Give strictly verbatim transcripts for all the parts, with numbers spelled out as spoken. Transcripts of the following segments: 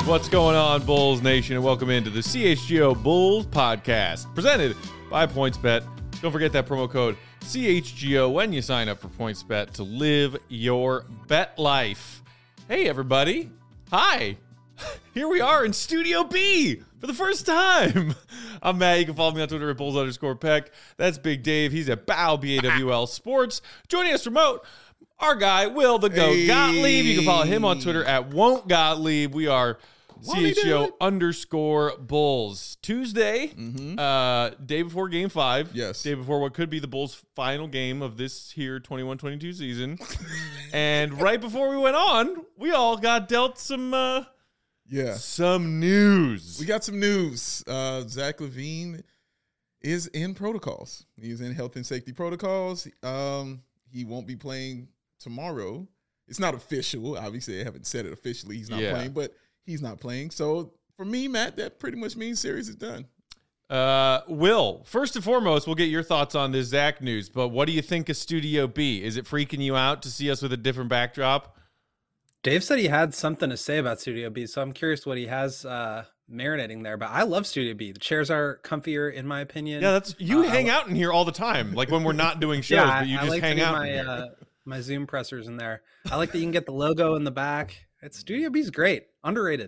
What's going on, Bulls Nation, and welcome into the C H G O Bulls Podcast, presented by PointsBet. Don't forget that promo code C H G O when you sign up for PointsBet to live your bet life. Hey, everybody. Hi. Here we are in Studio B for the first time. I'm Matt. You can follow me on Twitter at Bulls underscore Peck. That's Big Dave. He's at B A W, B A W L Sports. Joining us remote, our guy, Will the Goat Hey. Gottlieb. You can follow him on Twitter at Won't Gottlieb. We are C H G O underscore Bulls. Tuesday, Mm-hmm. uh, day before game five. Yes. Day before what could be the Bulls' final game of this here twenty-one twenty-two season. And right before we went on, we all got dealt some uh, Yeah. some news. We got some news. Uh, Zach LaVine is in protocols. He's in health and safety protocols. Um, he won't be playing tomorrow. It's not official. Obviously, I haven't said it officially. He's not Yeah. playing, but he's not playing. So for me, Matt, that pretty much means series is done. Uh, Will, first and foremost, we'll get your thoughts on this Zach news, but what do you think of Studio B? Is it freaking you out to see us with a different backdrop? Dave said he had something to say about Studio B, so I'm curious what he has uh, marinating there. But I love Studio B. The chairs are comfier, in my opinion. Yeah, that's you Uh, hang out in here all the time, like when we're not doing shows, yeah, but you I, just I like hang to do out. my in here. uh, my Zoom pressers in there. I like that you can get the logo in the back. It's Studio B's great, underrated.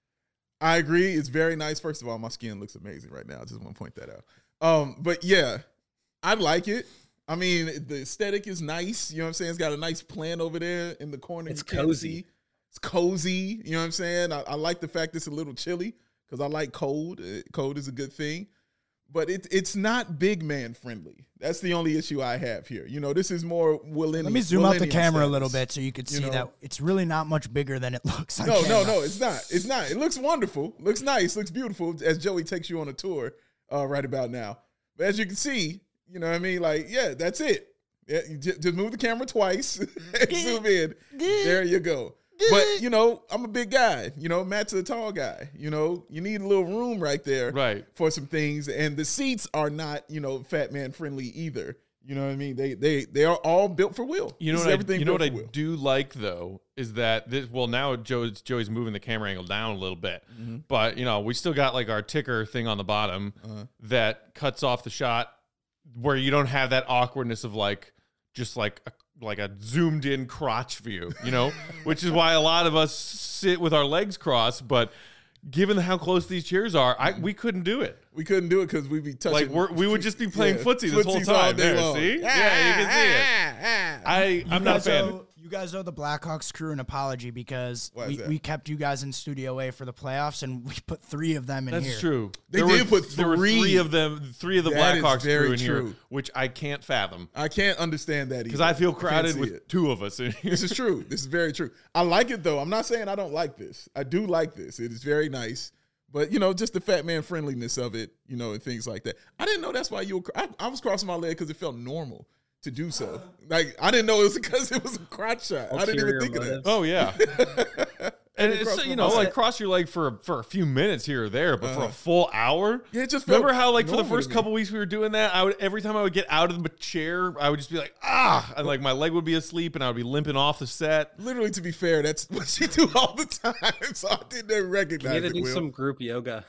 I agree. It's very nice. First of all, my skin looks amazing right now. I just want to point that out. Um, but yeah, I like it. I mean, the aesthetic is nice. You know what I'm saying? It's got a nice plant over there in the corner. It's you can't cozy. see. It's cozy. You know what I'm saying? I, I like the fact it's a little chilly because I like cold. Uh, Cold is a good thing. But it, it's not big man friendly. That's the only issue I have here. You know, this is more Willennium. Let me zoom out the Willennium camera a status. little bit so you could You see know? that it's really not much bigger than it looks on No, camera. no, no, it's not. It's not. It looks wonderful. Looks nice. Looks beautiful as Joey takes you on a tour uh, right about now. But as you can see, you know what I mean? Like, yeah, that's it. Yeah, you just, just move the camera twice and zoom in. There you go. But, you know, I'm a big guy. You know, Matt's a tall guy. You know, you need a little room right there Right. for some things. And the seats are not, you know, fat man friendly either. You know what I mean? They they they are all built for Will. You know This what? is I, everything you know what built I for Will. do like though is that this. Well, now Joe's Joey's moving the camera angle down a little bit, Mm-hmm. but you know we still got like our ticker thing on the bottom Uh-huh. that cuts off the shot where you don't have that awkwardness of like just like a, like a zoomed in crotch view, you know, which is why a lot of us sit with our legs crossed. But given how close these chairs are, I we couldn't do it. We couldn't do it because we'd be touching. Like we're, we would just be playing yeah, footsie this whole footsies all time. day There, long. see? Yeah, you can see it. I You I'm not a guys fan. owe- you guys owe the Blackhawks crew an apology because Why is we, that? we kept you guys in Studio A for the playoffs and we put three of them in That's here. true. They there did were, put There were three. three of them, three of the That is Blackhawks very crew in here, true. which I can't fathom I can't understand that because either. I feel can't crowded see with it. two of us in here. This is true. This is very true. I like it though. I'm not saying I don't like this. I do like this. It is very nice. But you know, just the fat man friendliness of it, you know, and things like that. I didn't know that's why you were. I, I was crossing my leg because it felt normal to do so. Like I didn't know it was because it was a crotch shot. I didn't even Ulterior think of that. motives. Oh yeah, and it's crossed you my know mind. like cross your leg for for a few minutes here or there, but for a Uh-huh. full hour. Yeah, it just felt Remember how like for the normal to first me. couple weeks we were doing that, I would every time I would get out of the chair, I would just be like ah, and like my leg would be asleep, and I would be limping off the set. Literally, to be fair, that's what she do all the time. So I didn't recognize You need to it. do Will. some group yoga.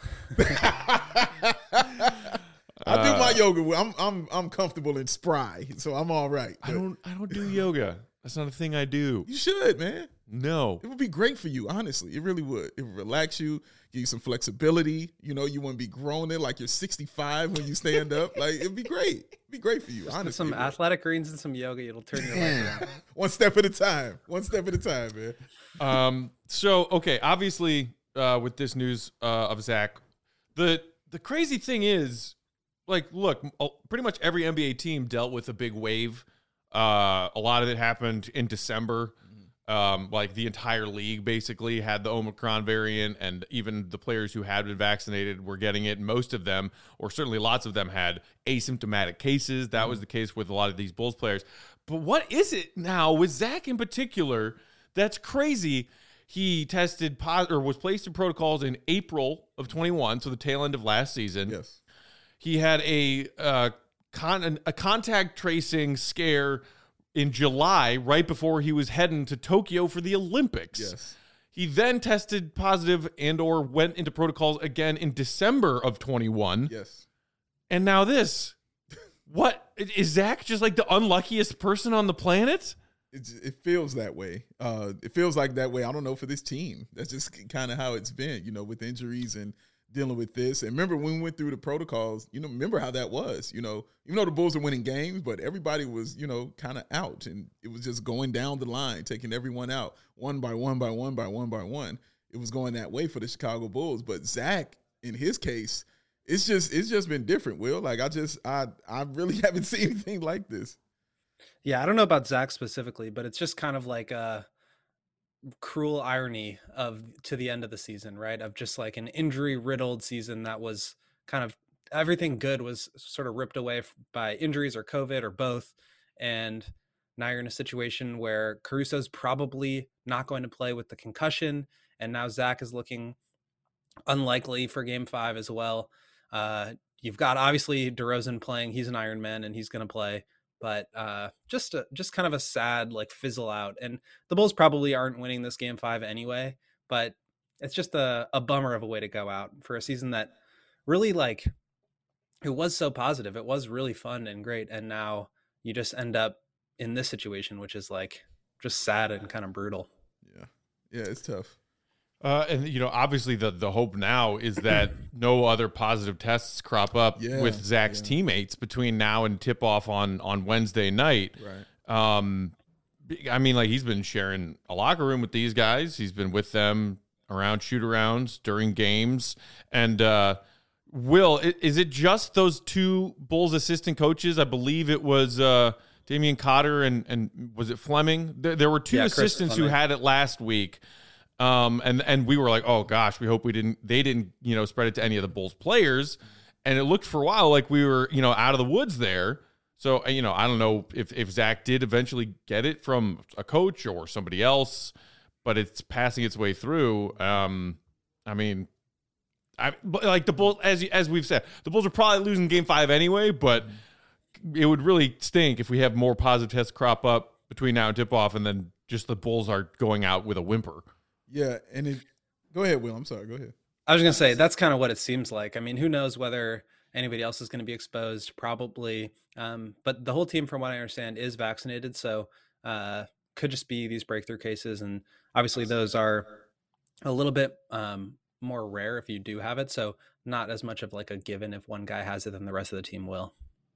I do Uh, my yoga. Will. I'm I'm I'm comfortable and spry, so I'm all right. I But don't I don't do yoga. That's not a thing I do. You should, man. No. It would be great for you, honestly. It really would. It would relax you, give you some flexibility. You know, you wouldn't be groaning like you're sixty-five when you stand up. Like, it'd be great. It'd be great for you, With honestly. some it would. athletic greens and some yoga, it'll turn your life around. One step at a time. One step at a time, man. Um. So okay, obviously, uh, with this news uh, of Zach, the the crazy thing is, like, look, m- oh, pretty much every N B A team dealt with a big wave. Uh, a lot of it happened in December. Um, like the entire league basically had the Omicron variant, and even the players who had been vaccinated were getting it. Most of them, or certainly lots of them, had asymptomatic cases. That was the case with a lot of these Bulls players. But what is it now with Zach in particular that's crazy? He tested positive or was placed in protocols in April of twenty-one, so the tail end of last season. Yes. He had a uh, con- a contact tracing scare in July, right before he was heading to Tokyo for the Olympics. Yes. He then tested positive and or went into protocols again in December of twenty-one. Yes. And now this. What? Is Zach just like the unluckiest person on the planet? It, it feels that way. Uh, it feels like that way. I don't know, for this team. That's just kind of how it's been, you know, with injuries and dealing with this. And remember when we went through the protocols, you know, remember how that was, you know, even though the Bulls are winning games, but everybody was, you know, kind of out, and it was just going down the line, taking everyone out one by one by one by one by one. It was going that way for the Chicago Bulls. But Zach, in his case, it's just, it's just been different, Will. Like I just, I, I really haven't seen anything like this. Yeah, I don't know about Zach specifically, but it's just kind of like a cruel irony of to the end of the season, right? Of just like an injury riddled season that was kind of everything good was sort of ripped away by injuries or COVID or both. And now you're in a situation where Caruso's probably not going to play with the concussion. And now Zach is looking unlikely for game five as well. Uh, you've got obviously DeRozan playing. He's an Iron Man and he's going to play. But uh, just a, just kind of a sad like fizzle out, and the Bulls probably aren't winning this game five anyway. But it's just a, a bummer of a way to go out for a season that really like it was so positive. It was really fun and great, and now you just end up in this situation, which is like just sad and kind of brutal. Yeah, yeah, it's tough. Uh, and, you know, obviously the, the hope now is that no other positive tests crop up yeah, with Zach's yeah. teammates between now and tip off on, on Wednesday night. Right. Um, I mean, like he's been sharing a locker room with these guys. He's been with them around shoot arounds during games. And, uh, Will, is it just those two Bulls assistant coaches? I believe it was, uh, Damian Cotter and, and was it Fleming? There, there were two Yeah, Chris assistants who Fleming. had it last week. Um, and, and we were like, oh gosh, we hope we didn't, they didn't, you know, spread it to any of the Bulls players. And it looked for a while like we were, you know, out of the woods there. So, you know, I don't know if, if Zach did eventually get it from a coach or somebody else, but it's passing its way through. Um, I mean, I but like the Bulls, as, as we've said, the Bulls are probably losing game five anyway, but it would really stink if we have more positive tests crop up between now and tip off. And then just the Bulls are going out with a whimper. Yeah, and it, go ahead, Will. I'm sorry. Go ahead. I was going to say, that's kind of what it seems like. I mean, who knows whether anybody else is going to be exposed, probably. Um, but the whole team, from what I understand, is vaccinated. So uh, could just be these breakthrough cases. And obviously those are a little bit um, more rare if you do have it. So not as much of like a given if one guy has it, then the rest of the team will.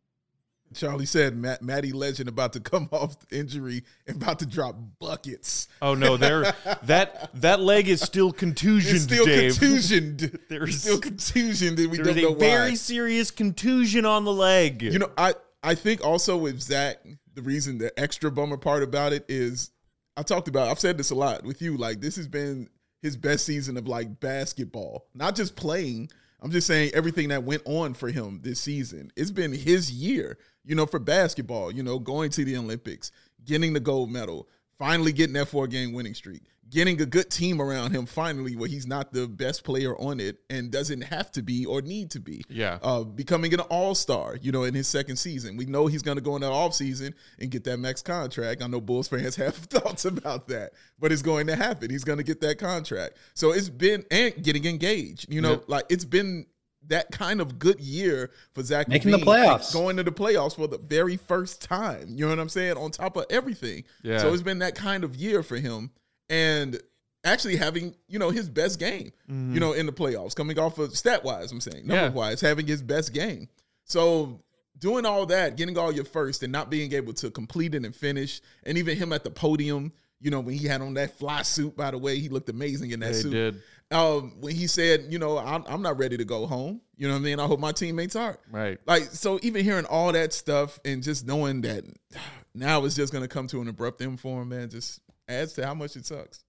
Charlie said Matt, Matty Legend about to come off injury and about to drop buckets. Oh no, there that that leg is still contusioned, It's still Dave. contusioned. There's It's still contusioned, and we There's don't know a very why. serious contusion on the leg. You know, I, I think also with Zach, the reason, the extra bummer part about it is, I talked about, I've said this a lot with you, like this has been his best season of like basketball, not just playing. I'm just saying everything that went on for him this season. It's been his year, you know, for basketball, you know, going to the Olympics, getting the gold medal, finally getting that four-game winning streak, getting a good team around him finally where he's not the best player on it and doesn't have to be or need to be. Yeah. Uh, becoming an all-star, you know, in his second season. We know he's going to go in that offseason and get that max contract. I know Bulls fans have thoughts about that, but it's going to happen. He's going to get that contract. So it's been, and getting engaged, you know, Yeah. like it's been that kind of good year for Zach Making the LaVine, playoffs. going to the playoffs for the very first time. You know what I'm saying? On top of everything. Yeah. So it's been that kind of year for him. And actually having, you know, his best game, you know, in the playoffs, coming off of stat-wise, I'm saying, Yeah. number-wise, having his best game. So doing all that, getting all your first and not being able to complete it and finish, and even him at the podium, you know, when he had on that fly suit, by the way, he looked amazing in that They suit. did. Um, when he said, you know, I'm, I'm not ready to go home. You know what I mean? I hope my teammates are. Right. Like, so even hearing all that stuff and just knowing that now it's just going to come to an abrupt end for him, man, just adds to how much it sucks.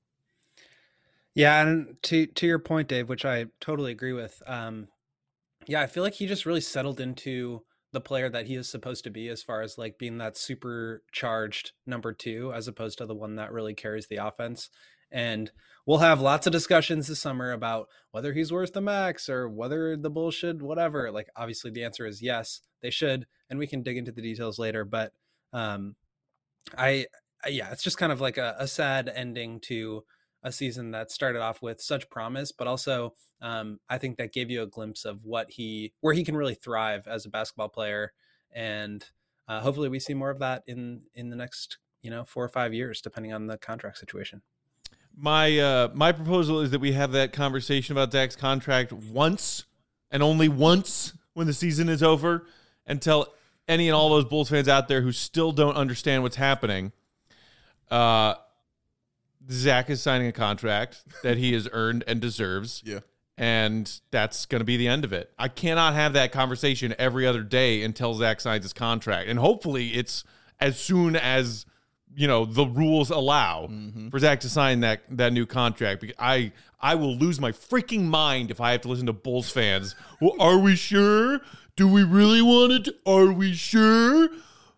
Yeah, and to to your point, Dave, which I totally agree with. Um, yeah, I feel like he just really settled into the player that he is supposed to be, as far as like being that supercharged number two, as opposed to the one that really carries the offense. And we'll have lots of discussions this summer about whether he's worth the max or whether the Bulls should, whatever. Like, obviously the answer is yes, they should. And we can dig into the details later. But um, I, I, yeah, it's just kind of like a, a sad ending to a season that started off with such promise, but also um, I think that gave you a glimpse of what he, where he can really thrive as a basketball player. And uh, hopefully we see more of that in, in the next, you know, four or five years, depending on the contract situation. My, uh, my proposal is that we have that conversation about Zach's contract once and only once when the season is over, and tell any and all those Bulls fans out there who still don't understand what's happening, uh, Zach is signing a contract that he has earned and deserves. Yeah. And that's going to be the end of it. I cannot have that conversation every other day until Zach signs his contract. And hopefully it's as soon as, you know, the rules allow mm-hmm. for Zach to sign that, that new contract. Because I, I will lose my freaking mind if I have to listen to Bulls fans. Well, are we sure? Do we really want it? Are we sure?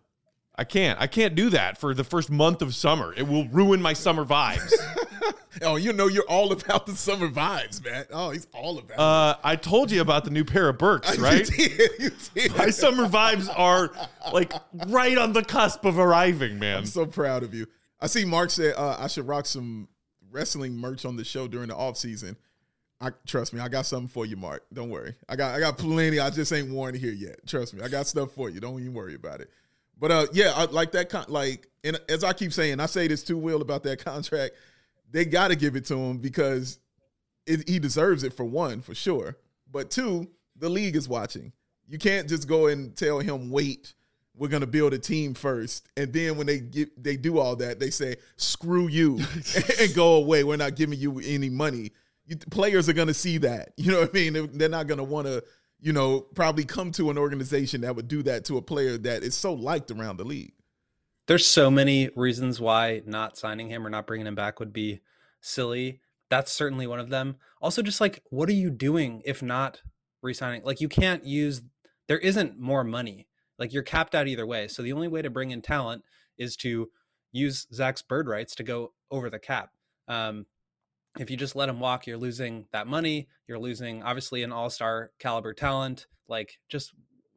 I can't. I can't do that for the first month of summer. It will ruin my summer vibes. Oh, you know you're all about the summer vibes, man. Oh, he's all about uh, it. I told you about the new pair of Birks, right? You did. You did. My summer vibes are like right on the cusp of arriving, man. I'm so proud of you. I see Mark said uh, I should rock some wrestling merch on the show during the off season. I trust me, I got something for you, Mark. Don't worry. I got I got plenty. I just ain't worn it here yet. Trust me, I got stuff for you. Don't even worry about it. But uh, yeah, I, like that. Con- like, and as I keep saying, I say this to Will about that contract. They got to give it to him because it, he deserves it, for one, for sure. But two, the league is watching. You can't just go and tell him, wait, we're going to build a team first. And then when they get, they do all that, they say, screw you and go away. We're not giving you any money. You, players are going to see that. You know what I mean? They're, they're not going to want to, you know, probably come to an organization that would do that to a player that is so liked around the league. There's so many reasons why not signing him or not bringing him back would be silly. That's certainly one of them. Also, just like, what are you doing if not re-signing? Like, you can't use, there isn't more money. Like, you're capped out either way. So the only way to bring in talent is to use Zach's bird rights to go over the cap. Um, if you just let him walk, you're losing that money. You're losing, obviously, an all-star caliber talent. Like, just,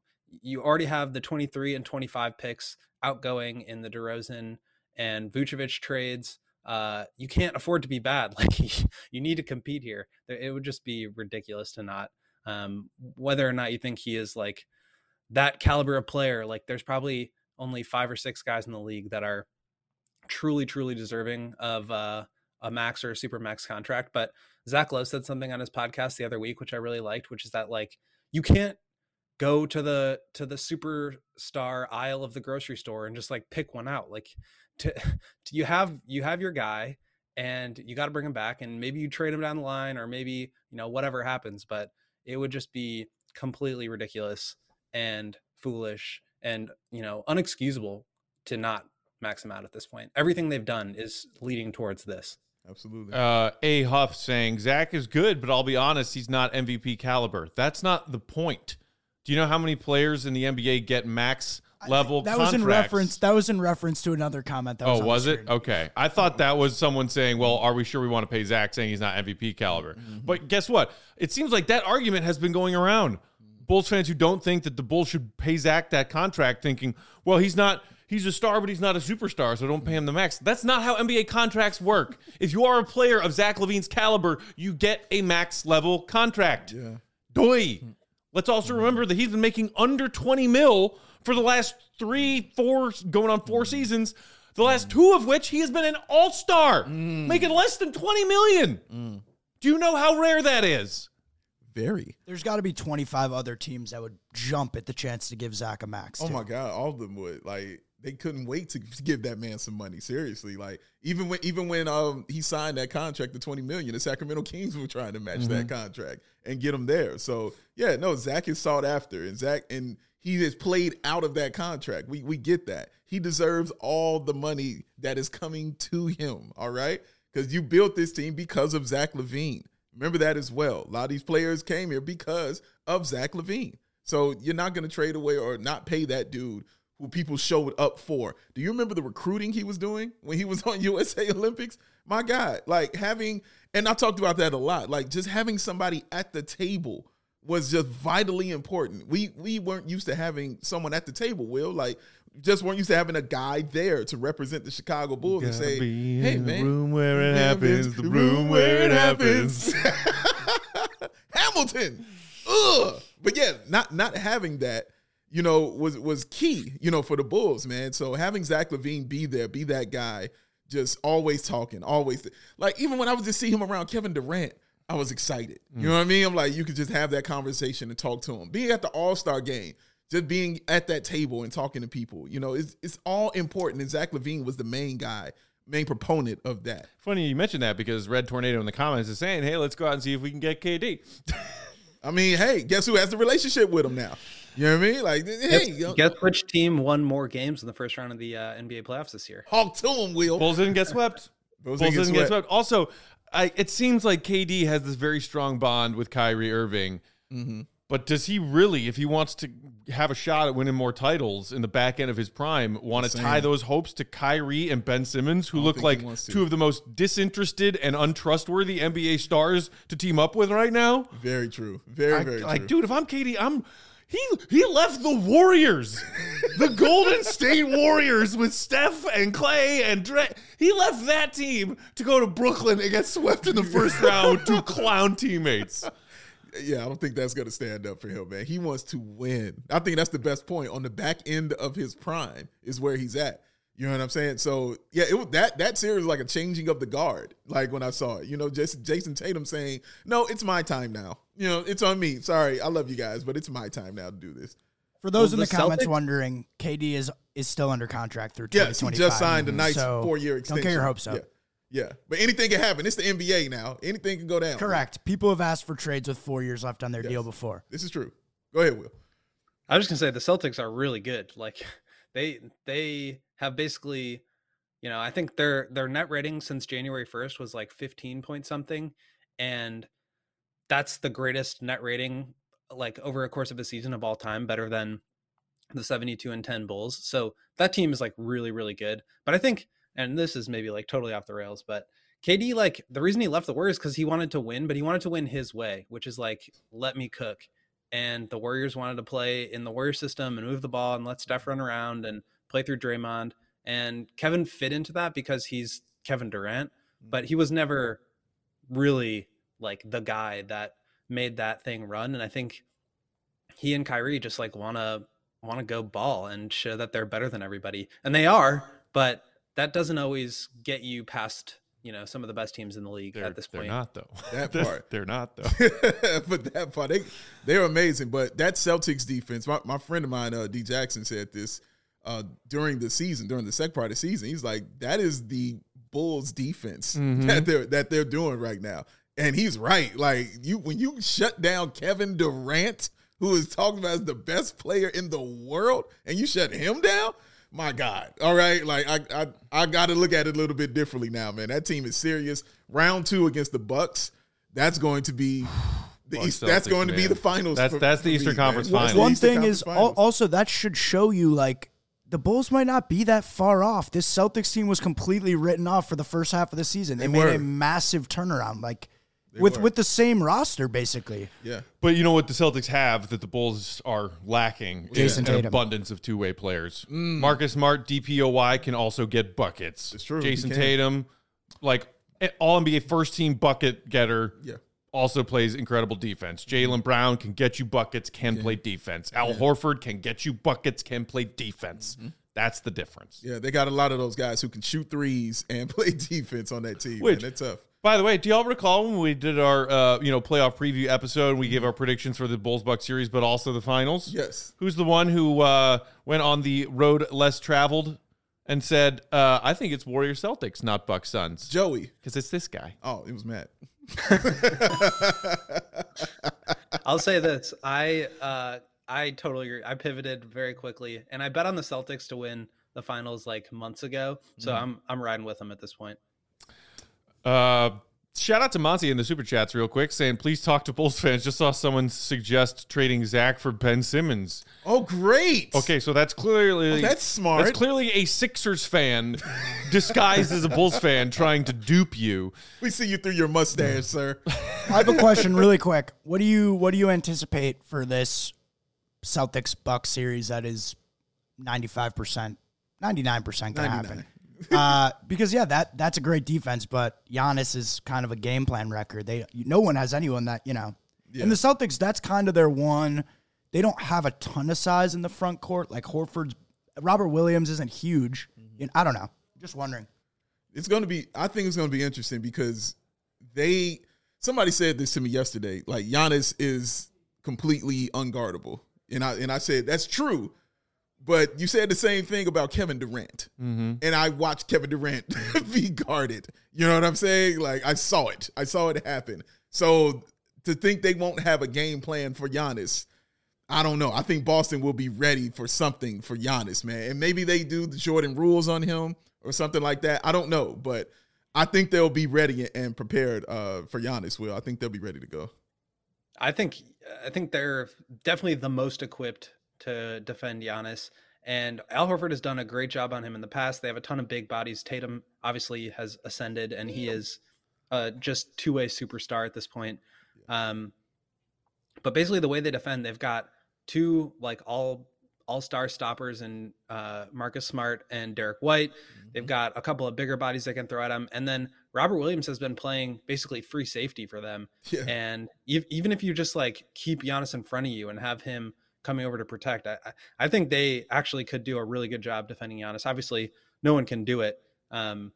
you already have the twenty-three and twenty-five picks outgoing in the DeRozan and Vucevic trades. Uh, you can't afford to be bad. Like, you need to compete here. It would just be ridiculous to not. Um, whether or not you think he is like that caliber of player, like, there's probably only five or six guys in the league that are truly, truly deserving of uh, a max or a super max contract. But Zach Lowe said something on his podcast the other week, which I really liked, which is that, like, you can't go to the to the superstar aisle of the grocery store and just like pick one out. Like, to, to you have you have your guy, and you got to bring him back, and maybe you trade him down the line, or maybe, you know, whatever happens. But it would just be completely ridiculous and foolish and, you know, unexcusable to not max him out at this point. Everything they've done is leading towards this. Absolutely. Uh, A. Huff saying Zach is good, but I'll be honest, he's not M V P caliber. That's not the point. Do you know how many players in the N B A get max level that contracts? was in reference that was in reference to another comment that was oh on was the it screen. Okay, I thought that was someone saying, well, are we sure we want to pay Zach, saying he's not M V P caliber? Mm-hmm. But guess what, it seems like that argument has been going around. Bulls fans who don't think that the Bulls should pay Zach that contract, thinking, well, he's not he's a star, but he's not a superstar, so don't pay him the max. That's not how N B A contracts work. If you are a player of Zach LaVine's caliber, you get a max level contract. Yeah. Doi. Let's also remember that he's been making under twenty mil for the last three, four, going on four seasons, the last two of which he has been an all-star, mm. making less than twenty million. Mm. Do you know how rare that is? Very. There's got to be twenty-five other teams that would jump at the chance to give Zach a max. Oh, too. my God. All of them would. Like, they couldn't wait to give that man some money. Seriously. Like, even when even when um he signed that contract, the twenty million dollars, the Sacramento Kings were trying to match mm-hmm. that contract and get him there. So, yeah, no, Zach is sought after. And Zach, and he has played out of that contract. We we get that. He deserves all the money that is coming to him, all right? Because you built this team because of Zach LaVine. Remember that as well. A lot of these players came here because of Zach LaVine. So you're not going to trade away or not pay that dude who people showed up for. Do you remember the recruiting he was doing when he was on U S A Olympics? My God, like having, and I talked about that a lot, like just having somebody at the table was just vitally important. We we weren't used to having someone at the table, Will. Like, just weren't used to having a guy there to represent the Chicago Bulls and say, hey, man. The room where it happens. The room where it happens. Hamilton. Ugh. But yeah, not not having that, you know, was was key, you know, for the Bulls, man. So having Zach LaVine be there, be that guy, just always talking, always. Like, even when I was just see him around Kevin Durant, I was excited. You know what I mean? I'm like, you could just have that conversation and talk to him. Being at the All-Star game, just being at that table and talking to people, you know, it's, it's all important. And Zach LaVine was the main guy, main proponent of that. Funny you mentioned that because Red Tornado in the comments is saying, hey, let's go out and see if we can get K D. I mean, hey, guess who has the relationship with him now? You know what I mean? Like, hey, guess, you know, guess which team won more games in the first round of the uh, N B A playoffs this year? Talk to him, Will. Bulls didn't get swept. Bulls Bulls didn't didn't get get swept. swept. Also, I, it seems like K D has this very strong bond with Kyrie Irving. Mm-hmm. But does he really, if he wants to have a shot at winning more titles in the back end of his prime, want to Same. tie those hopes to Kyrie and Ben Simmons, who don't look think he like wants to. two of the most disinterested and untrustworthy N B A stars to team up with right now? Very true. Very, I- very like, true. dude, if I'm K D, I'm he he left the Warriors, the Golden State Warriors with Steph and Clay and Dre. He left that team to go to Brooklyn and get swept in the first round with two clown teammates. Yeah, I don't think that's going to stand up for him, man. He wants to win. I think that's the best point. On the back end of his prime is where he's at. You know what I'm saying? So, yeah, it was that that series was like a changing of the guard, like when I saw it. You know, just Jason Tatum saying, no, it's my time now. You know, it's on me. Sorry, I love you guys, but it's my time now to do this. For those Well, in the, the comments Celtics- wondering, K D is is still under contract through Yes, he twenty twenty-five. just signed a nice So four-year extension. Don't get your hopes up. Yeah. Yeah, but anything can happen. It's the N B A now. Anything can go down. Correct. People have asked for trades with four years left on their Yes. deal before. This is true. Go ahead, Will. I was just gonna say the Celtics are really good. Like they they have basically, you know, I think their their net rating since January first was like fifteen point something, and that's the greatest net rating like over a course of a season of all time, better than the seventy-two and ten Bulls. So that team is like really really good. But I think, and this is maybe like totally off the rails, but K D, like the reason he left the Warriors because he wanted to win, but he wanted to win his way, which is like, let me cook. And the Warriors wanted to play in the Warrior system and move the ball and let Steph run around and play through Draymond. And Kevin fit into that because he's Kevin Durant, but he was never really like the guy that made that thing run. And I think he and Kyrie just like want to want to go ball and show that they're better than everybody. And they are, but that doesn't always get you past, you know, some of the best teams in the league They're, at this they're point. not, though. That They're- part. They're not, though. but that part, they they're amazing. But that Celtics defense, my, my friend of mine, uh, D Jackson, said this uh, during the season, during the second part of the season. He's like, that is the Bulls defense Mhm. that they're that they're doing right now. And he's right. Like you when you shut down Kevin Durant, who is talked about as the best player in the world, and you shut him down, my God. All right. Like I I, I gotta look at it a little bit differently now, man. That team is serious. Round two against the Bucks, that's going to be the Bucks East, that's Celtics, going to be man. the finals. That's- for- that's the for Eastern me, Conference man. Finals. That's the One Eastern thing Conference is al- Finals. also that should show you like the Bulls might not be that far off. This Celtics team was completely written off for the first half of the season. They, They made were. a massive turnaround, like They with were. with the same roster basically. Yeah. But you know what the Celtics have that the Bulls are lacking? Jason is an Tatum. abundance of two-way players. Marcus Smart, D P O Y, can also get buckets. It's true, Jason he can. Tatum, like all N B A first-team bucket getter, Yeah. also plays incredible defense. Jaylen Brown can get you buckets, can play defense. Al Horford can get you buckets, can play defense. That's the difference. Yeah, they got a lot of those guys who can shoot threes and play defense on that team. Which- man. They're tough. By the way, do y'all recall when we did our uh, you know playoff preview episode and we gave our predictions for the Bulls Bucks series, but also the finals? Yes. Who's the one who uh, went on the road less traveled and said, uh, I think it's Warriors Celtics, not Bucks Suns? Joey. Because it's this guy. Oh, it was Matt. I'll say this. I uh I totally agree. I pivoted very quickly and I bet on the Celtics to win the finals like months ago. So I'm I'm riding with them at this point. Uh, shout out to Monty in the Super Chats real quick saying, please talk to Bulls fans. Just saw someone suggest trading Zach for Ben Simmons. Oh, great. Okay, so that's clearly... Oh, that's smart. That's clearly a Sixers fan disguised as a Bulls fan trying to dupe you. We see you through your mustache, sir. I have a question really quick. What do you what do you anticipate for this Celtics Bucks series that is ninety-five percent, ninety-nine percent going to happen? uh, because, yeah, that that's a great defense, but Giannis is kind of a game plan record. They No one has anyone that, you know. Yeah. And the Celtics, that's kind of their one. They don't have a ton of size in the front court. Like Horford's, Robert Williams isn't huge. Mm-hmm. I don't know. Just wondering. It's going to be, I think it's going to be interesting because they, somebody said this to me yesterday, like Giannis is completely unguardable. And I, and I said, that's true. But you said the same thing about Kevin Durant. Mm-hmm. And I watched Kevin Durant be guarded. You know what I'm saying? Like, I saw it. I saw it happen. So to think they won't have a game plan for Giannis, I don't know. I think Boston will be ready for something for Giannis, man. And maybe they do the Jordan rules on him or something like that. I don't know. But I think they'll be ready and prepared uh, for Giannis, Will. I think they'll be ready to go. I think I think they're definitely the most equipped to defend Giannis. And Al Horford has done a great job on him in the past. They have a ton of big bodies. Tatum obviously has ascended, and he is uh, just two-way superstar at this point. Um, but basically the way they defend, they've got two like all all-star stoppers in uh, Marcus Smart and Derek White. Mm-hmm. They've got a couple of bigger bodies they can throw at him. And then Robert Williams has been playing basically free safety for them. Yeah. And e- even if you just like keep Giannis in front of you and have him coming over to protect, I, I think they actually could do a really good job defending Giannis. Obviously, no one can do it. Um,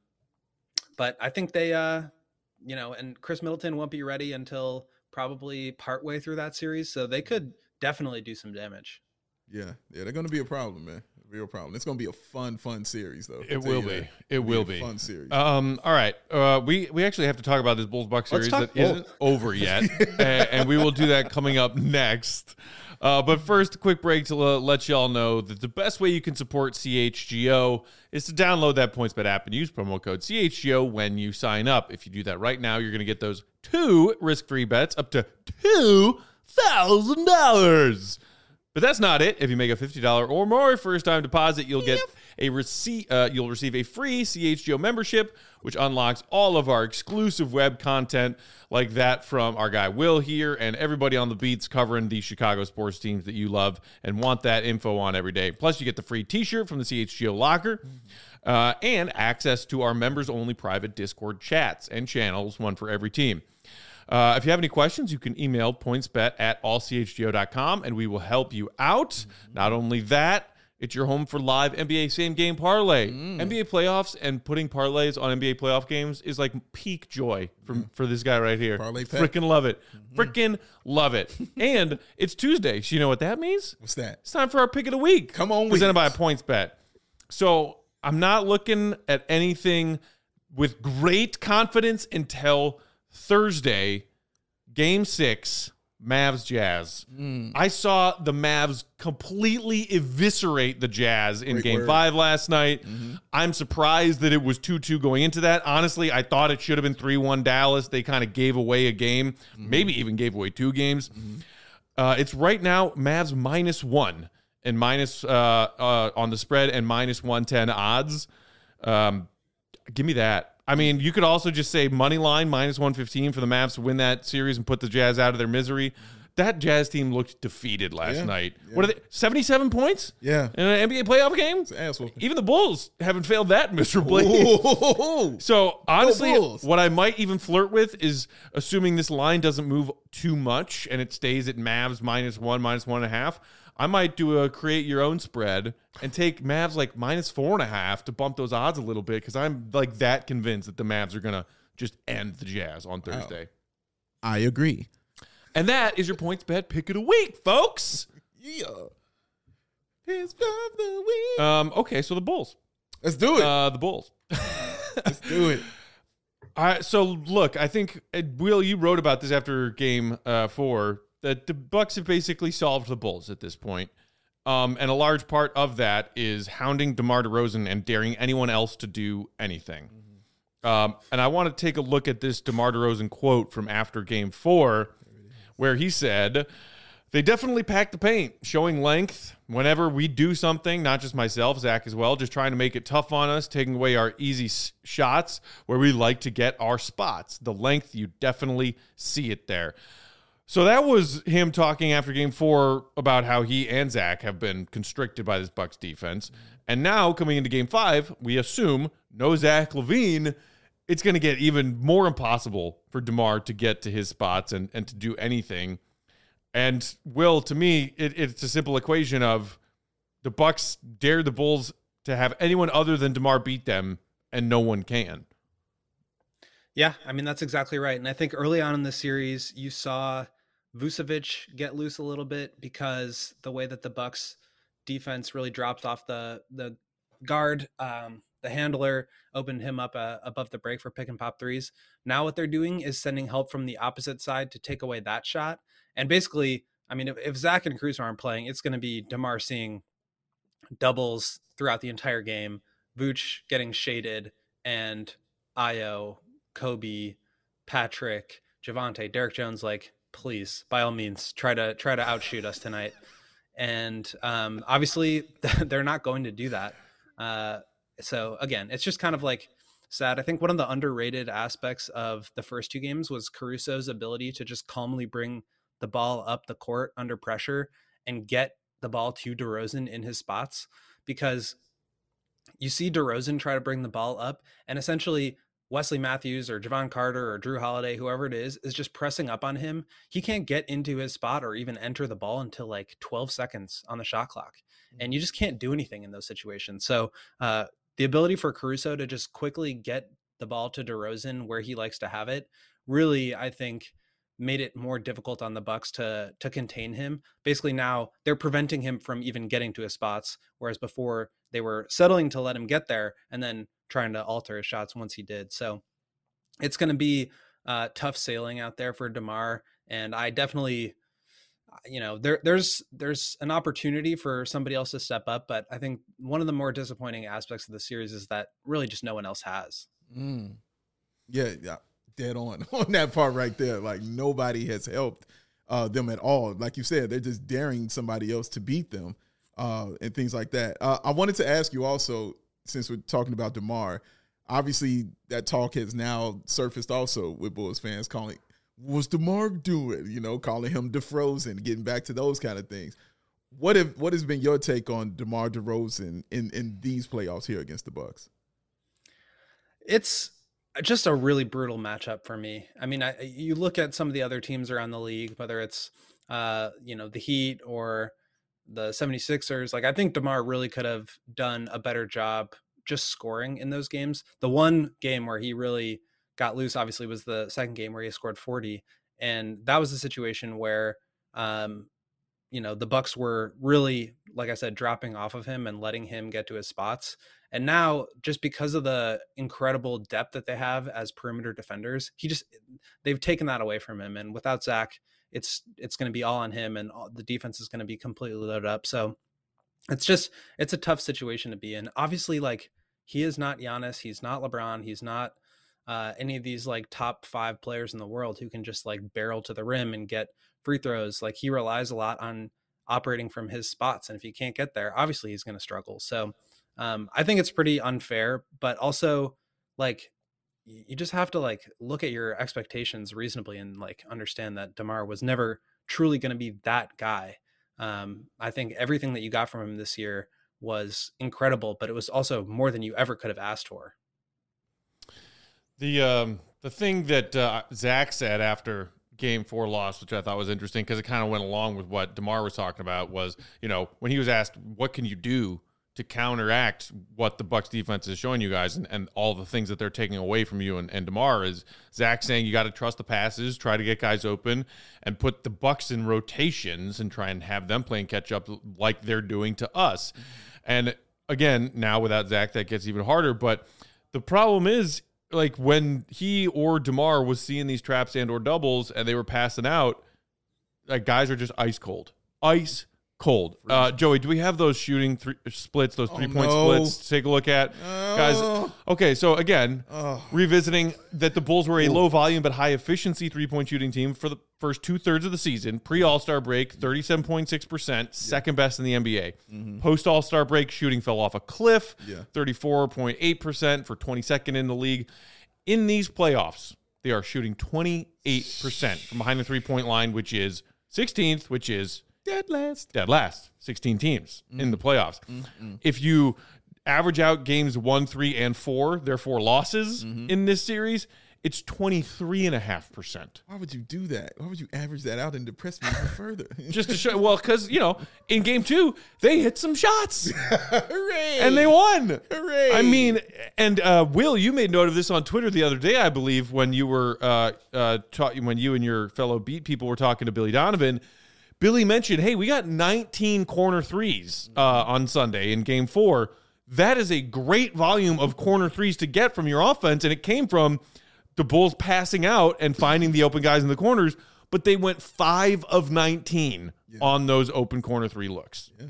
but I think they, uh, you know, and Chris Middleton won't be ready until probably partway through that series. So they could definitely do some damage. Yeah, yeah, they're going to be a problem, man. A real problem. It's going to be a fun, fun series, though. It will be. That. It It'll will be. A fun series. Um. All right. Uh. We we actually have to talk about this Bulls Bucks series that Bulls. isn't over yet, and, and we will do that coming up next. Uh. But first, a quick break to uh, let y'all know that the best way you can support C H G O is to download that PointsBet app and use promo code C H G O when you sign up. If you do that right now, you're going to get those two risk-free bets up to two thousand dollars. But that's not it. If you make a fifty dollars or more first-time deposit, you'll get a receipt. Uh, you'll receive a free C H G O membership, which unlocks all of our exclusive web content like that from our guy Will here and everybody on the beats covering the Chicago sports teams that you love and want that info on every day. Plus, you get the free T-shirt from the C H G O locker uh, and access to our members-only private Discord chats and channels, one for every team. Uh, if you have any questions, you can email pointsbet at all c h g o dot com and we will help you out. Mm-hmm. Not only that, it's your home for live N B A same game parlay. Mm. N B A playoffs and putting parlays on N B A playoff games is like peak joy for, mm. for this guy right here. Parlay Freaking love it. Mm-hmm. Freaking love it. And it's Tuesday. So you know what that means? What's that? It's time for our pick of the week. Come on, presented by PointsBet. So I'm not looking at anything with great confidence until Thursday, game six, Mavs Jazz. Mm. I saw the Mavs completely eviscerate the Jazz in Great game word. five last night. Mm-hmm. I'm surprised that it was two two going into that. Honestly, I thought it should have been three one Dallas. They kind of gave away a game, mm-hmm. maybe even gave away two games. Mm-hmm. Uh, it's right now Mavs minus one and minus uh, uh, on the spread and minus one ten odds. Um, give me that. I mean, you could also just say money line minus one fifteen for the Mavs to win that series and put the Jazz out of their misery. That Jazz team looked defeated last yeah, night. Yeah. What are they? seventy-seven points? Yeah. In an N B A playoff game? It's an asshole. Even the Bulls haven't failed that miserably. So, honestly, what I might even flirt with is assuming this line doesn't move too much and it stays at Mavs minus one, minus one and a half. I might do a create your own spread and take Mavs like minus four and a half to bump those odds a little bit because I'm like that convinced that the Mavs are going to just end the Jazz on Thursday. Wow. I agree. And that is your PointsBet pick of the week, folks. Yeah. Pick of the week. Um, okay, so the Bulls. Let's do it. Uh, the Bulls. Let's do it. All right, so look, I think, uh, Will, you wrote about this after game uh, four, that the Bucks have basically solved the Bulls at this point. Um, and a large part of that is hounding DeMar DeRozan and daring anyone else to do anything. Mm-hmm. Um, and I want to take a look at this DeMar DeRozan quote from after game four, where he said, they definitely pack the paint, showing length whenever we do something, not just myself, Zach as well, just trying to make it tough on us, taking away our easy s- shots where we like to get our spots. The length, you definitely see it there. So that was him talking after game four about how he and Zach have been constricted by this Bucks defense. And now coming into game five, we assume no Zach LaVine. It's going to get even more impossible for DeMar to get to his spots and, and to do anything. And Will, to me, it, it's a simple equation of the Bucks dare the Bulls to have anyone other than DeMar beat them, and no one can. Yeah, I mean, that's exactly right. And I think early on in the series, you saw Vucevic get loose a little bit because the way that the Bucks defense really dropped off the the guard, um, the handler opened him up uh, above the break for pick and pop threes. Now what they're doing is sending help from the opposite side to take away that shot. And basically, I mean, if, if Zach and Caruso aren't playing, it's going to be DeMar seeing doubles throughout the entire game, Vooch getting shaded, and Ayo, Kobe, Patrick, Javante, Derek Jones, like, please, by all means, try to try to outshoot us tonight. And um, obviously, they're not going to do that. Uh, so again, it's just kind of like sad. I think one of the underrated aspects of the first two games was Caruso's ability to just calmly bring the ball up the court under pressure and get the ball to DeRozan in his spots, because you see DeRozan try to bring the ball up, and essentially Wesley Matthews or Javon Carter or Drew Holiday, whoever it is, is just pressing up on him. He can't get into his spot or even enter the ball until like twelve seconds on the shot clock. And you just can't do anything in those situations. So uh, the ability for Caruso to just quickly get the ball to DeRozan where he likes to have it, really, I think, made it more difficult on the Bucks to to contain him. Basically now they're preventing him from even getting to his spots, whereas before they were settling to let him get there and then trying to alter his shots once he did. So it's going to be uh, tough sailing out there for DeMar. And I definitely, you know, there there's there's an opportunity for somebody else to step up, but I think one of the more disappointing aspects of the series is that really just no one else has. Mm. Yeah, yeah. Dead on on that part right there. Like, nobody has helped uh, them at all. Like you said, they're just daring somebody else to beat them uh, and things like that. Uh, I wanted to ask you also, since we're talking about DeMar, obviously that talk has now surfaced also with Bulls fans calling, what's DeMar doing? You know, calling him DeFrozen, getting back to those kind of things. What have what has been your take on DeMar DeRozan in in these playoffs here against the Bucks? It's just a really brutal matchup for me. I mean, I, you look at some of the other teams around the league, whether it's, uh, you know, the Heat or the seventy-sixers. Like, I think DeMar really could have done a better job just scoring in those games. The one game where he really got loose, obviously, was the second game where he scored forty. And that was a situation where, um, you know, the Bucks were really, like I said, dropping off of him and letting him get to his spots. And now, just because of the incredible depth that they have as perimeter defenders, he just, they've taken that away from him. And without Zach, it's, it's going to be all on him, and all, the defense is going to be completely loaded up. So it's just, it's a tough situation to be in. Obviously, like, he is not Giannis. He's not LeBron. He's not uh, any of these like top five players in the world who can just like barrel to the rim and get free throws. Like, he relies a lot on operating from his spots. And if he can't get there, obviously he's going to struggle. So um, I think it's pretty unfair, but also, like, you just have to like look at your expectations reasonably and like understand that DeMar was never truly going to be that guy. Um, I think everything that you got from him this year was incredible, but it was also more than you ever could have asked for. The um, the thing that uh, Zach said after game four loss, which I thought was interesting because it kind of went along with what DeMar was talking about, was, you know, when he was asked, what can you do to counteract what the Bucks defense is showing you guys and, and all the things that they're taking away from you, and, and DeMar is Zach saying you got to trust the passes, try to get guys open, and put the Bucks in rotations and try and have them playing catch up like they're doing to us. And again, now without Zach, that gets even harder. But the problem is, like, when he or DeMar was seeing these traps and or doubles and they were passing out, like, guys are just ice cold, ice Cold. Uh, Joey, do we have those shooting three splits, those Oh, three point no. splits to take a look at? Oh. Guys, okay, so again, Oh. revisiting that the Bulls were a low volume but high efficiency three point shooting team for the first two thirds of the season. Pre All Star break, thirty-seven point six percent, second best in the N B A. Mm-hmm. Post All Star break, shooting fell off a cliff, Yeah. thirty-four point eight percent for twenty-second in the league. In these playoffs, they are shooting twenty-eight percent from behind the three point line, which is sixteenth, which is Dead last. dead last, sixteen teams Mm. in the playoffs. Mm-mm. If you average out games one, three, and four, their four losses Mm-hmm. in this series, it's twenty-three point five percent. Why would you do that? Why would you average that out and depress me even further? Just to show, well, because, you know, in game two, they hit some shots Hooray! and they won. Hooray! I mean, and uh, Will, you made note of this on Twitter the other day, I believe, when you were uh, uh, ta- when you and your fellow beat people were talking to Billy Donovan. Billy mentioned, hey, we got nineteen corner threes uh, on Sunday in game four. That is a great volume of corner threes to get from your offense, and it came from the Bulls passing out and finding the open guys in the corners, but they went five of nineteen Yeah. on those open corner three looks. Yeah.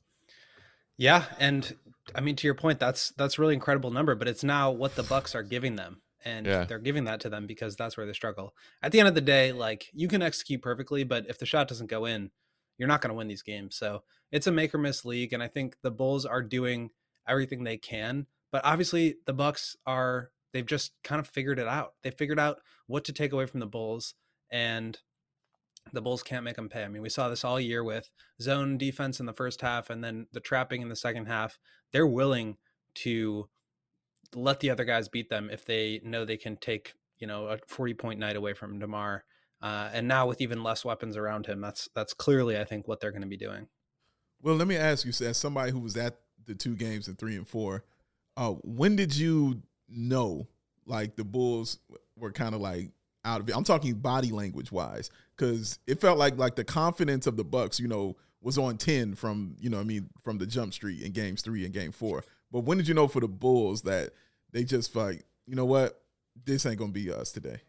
Yeah, and I mean, to your point, that's that's a really incredible number, but it's now what the Bucks are giving them, and Yeah. they're giving that to them because that's where they struggle. At the end of the day, like, you can execute perfectly, but if the shot doesn't go in, you're not going to win these games. So it's a make or miss league, and I think the Bulls are doing everything they can, but obviously the Bucks are they've just kind of figured it out. They figured out what to take away from the Bulls, and the Bulls can't make them pay. I mean, we saw this all year with zone defense in the first half and then the trapping in the second half. They're willing to let the other guys beat them if they know they can take, you know, a forty point night away from DeMar. Uh, and now with even less weapons around him, that's that's clearly, I think, what they're going to be doing. Well, let me ask you, as somebody who was at the two games in three and four, uh, when did you know, like, the Bulls were kind of like out of it? I'm talking body language wise, because it felt like like the confidence of the Bucks, you know, was on ten from, you know, I mean, from the jump street in games three and game four. But when did you know for the Bulls that they just like, you know what, this ain't gonna be us today?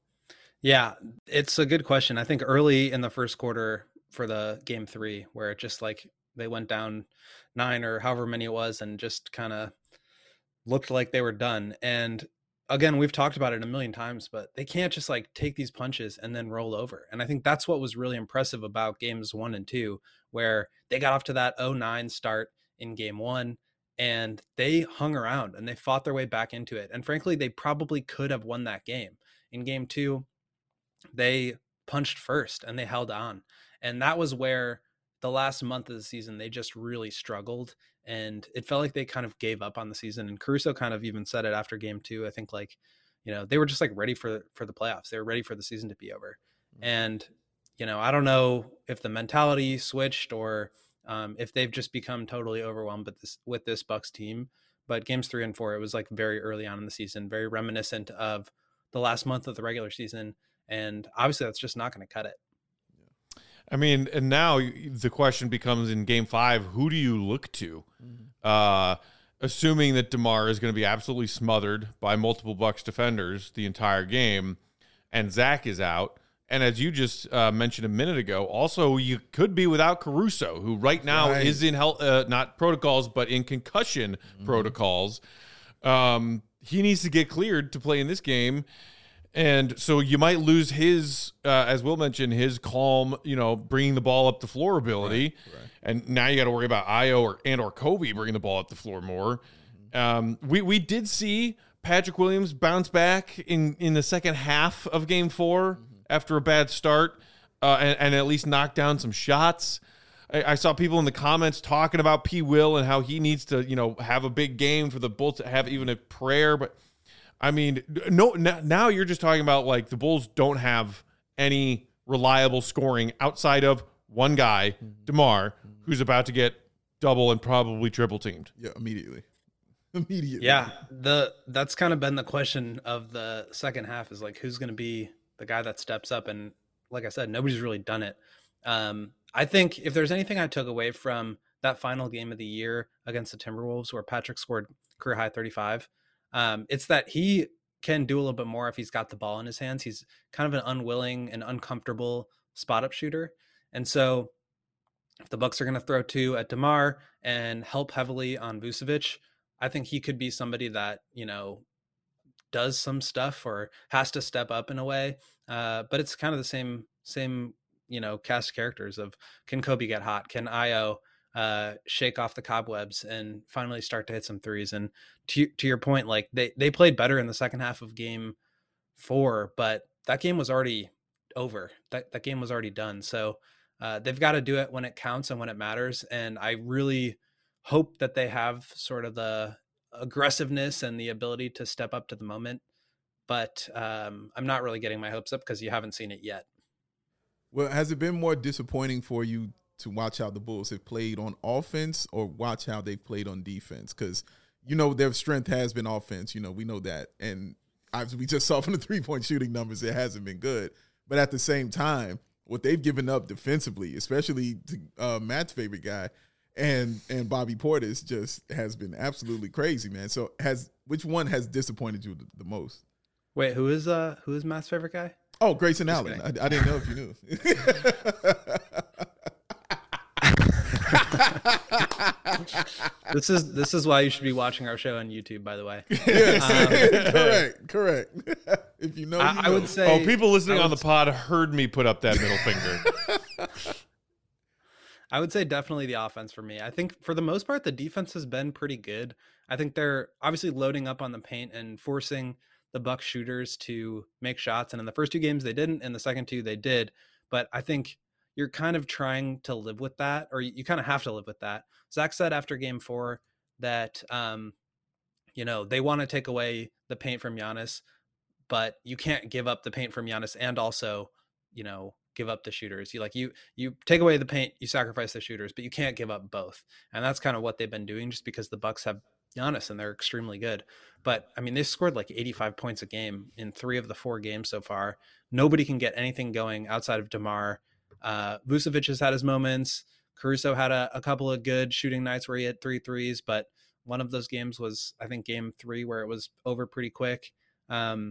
Yeah, it's a good question. I think early in the first quarter for the game three, where it just like they went down nine or however many it was and just kind of looked like they were done. And again, we've talked about it a million times, but they can't just like take these punches and then roll over. And I think that's what was really impressive about games one and two, where they got off to that oh nine start in game one and they hung around and they fought their way back into it. And frankly, they probably could have won that game. In game two, they punched first and they held on. And that was where the last month of the season, they just really struggled. And it felt like they kind of gave up on the season. And Caruso kind of even said it after game two. I think like, you know, they were just like ready for, for the playoffs. They were ready for the season to be over. And, you know, I don't know if the mentality switched or um, if they've just become totally overwhelmed with this, with this Bucks team. But games three and four, it was like very early on in the season, very reminiscent of the last month of the regular season. And obviously that's just not going to cut it. I mean, and now the question becomes in game five, who do you look to? Mm-hmm. Uh, assuming that DeMar is going to be absolutely smothered by multiple Bucks defenders the entire game, and Zach is out. And as you just uh, mentioned a minute ago, also you could be without Caruso, who right now Right. is in health, uh, not protocols, but in concussion mm-hmm. protocols. Um, he needs to get cleared to play in this game. And so you might lose his, uh, as Will mentioned, his calm, you know, bringing the ball up the floor ability. Right, right. And now you got to worry about Io or and or Kobe bringing the ball up the floor more. Mm-hmm. Um, we we did see Patrick Williams bounce back in, in the second half of game four mm-hmm. after a bad start uh, and, and at least knock down some shots. I, I saw people in the comments talking about P. Will and how he needs to, you know, have a big game for the Bulls to have even a prayer, but I mean, no. Now you're just talking about like the Bulls don't have any reliable scoring outside of one guy, DeMar, who's about to get double and probably triple teamed. Yeah, immediately, immediately. Yeah, the that's kind of been the question of the second half is like who's going to be the guy that steps up, and like I said, nobody's really done it. Um, I think if there's anything I took away from that final game of the year against the Timberwolves, where Patrick scored career high thirty-five. Um, it's that he can do a little bit more if he's got the ball in his hands. He's kind of an unwilling and uncomfortable spot up shooter. And so if the Bucks are going to throw two at DeMar and help heavily on Vucevic, I think he could be somebody that, you know, does some stuff or has to step up in a way. Uh, but it's kind of the same, same, you know, cast of characters of, can Kobe get hot? Can Io uh, shake off the cobwebs and finally start to hit some threes? And to, to your point, like they, they played better in the second half of game four, but that game was already over. That, that game was already done. So uh, they've got to do it when it counts and when it matters. And I really hope that they have sort of the aggressiveness and the ability to step up to the moment. But um, I'm not really getting my hopes up because you haven't seen it yet. Well, has it been more disappointing for you to watch how the Bulls have played on offense or watch how they've played on defense? Because, you know, their strength has been offense. You know, we know that. And I've, we just saw from the three-point shooting numbers, it hasn't been good. But at the same time, what they've given up defensively, especially to uh, Matt's favorite guy, and and Bobby Portis, just has been absolutely crazy, man. So has which one has disappointed you the, the most? Wait, who is uh who is Matt's favorite guy? Oh, Grayson Just Allen. I, I didn't know if you knew. This is this is why you should be watching our show on YouTube, by the way. Yes, um, correct, correct. If you know, I, you know. I would say. Oh, people listening would, on the pod heard me put up that middle finger. I would say definitely the offense for me. I think for the most part, the defense has been pretty good. I think they're obviously loading up on the paint and forcing the Bucks shooters to make shots. And in the first two games, they didn't. In the second two, they did. But I think you're kind of trying to live with that, or you, you kind of have to live with that. Zach said after game four that, um, you know, they want to take away the paint from Giannis, but you can't give up the paint from Giannis and also, you know, give up the shooters. You like you you take away the paint, you sacrifice the shooters, but you can't give up both. And that's kind of what they've been doing, just because the Bucks have Giannis and they're extremely good. But I mean, they've scored like eighty-five points a game in three of the four games so far. Nobody can get anything going outside of DeMar. Uh, Vucevic has had his moments. Caruso had a, a couple of good shooting nights where he had three threes, but one of those games was, I think, game three, where it was over pretty quick. Um,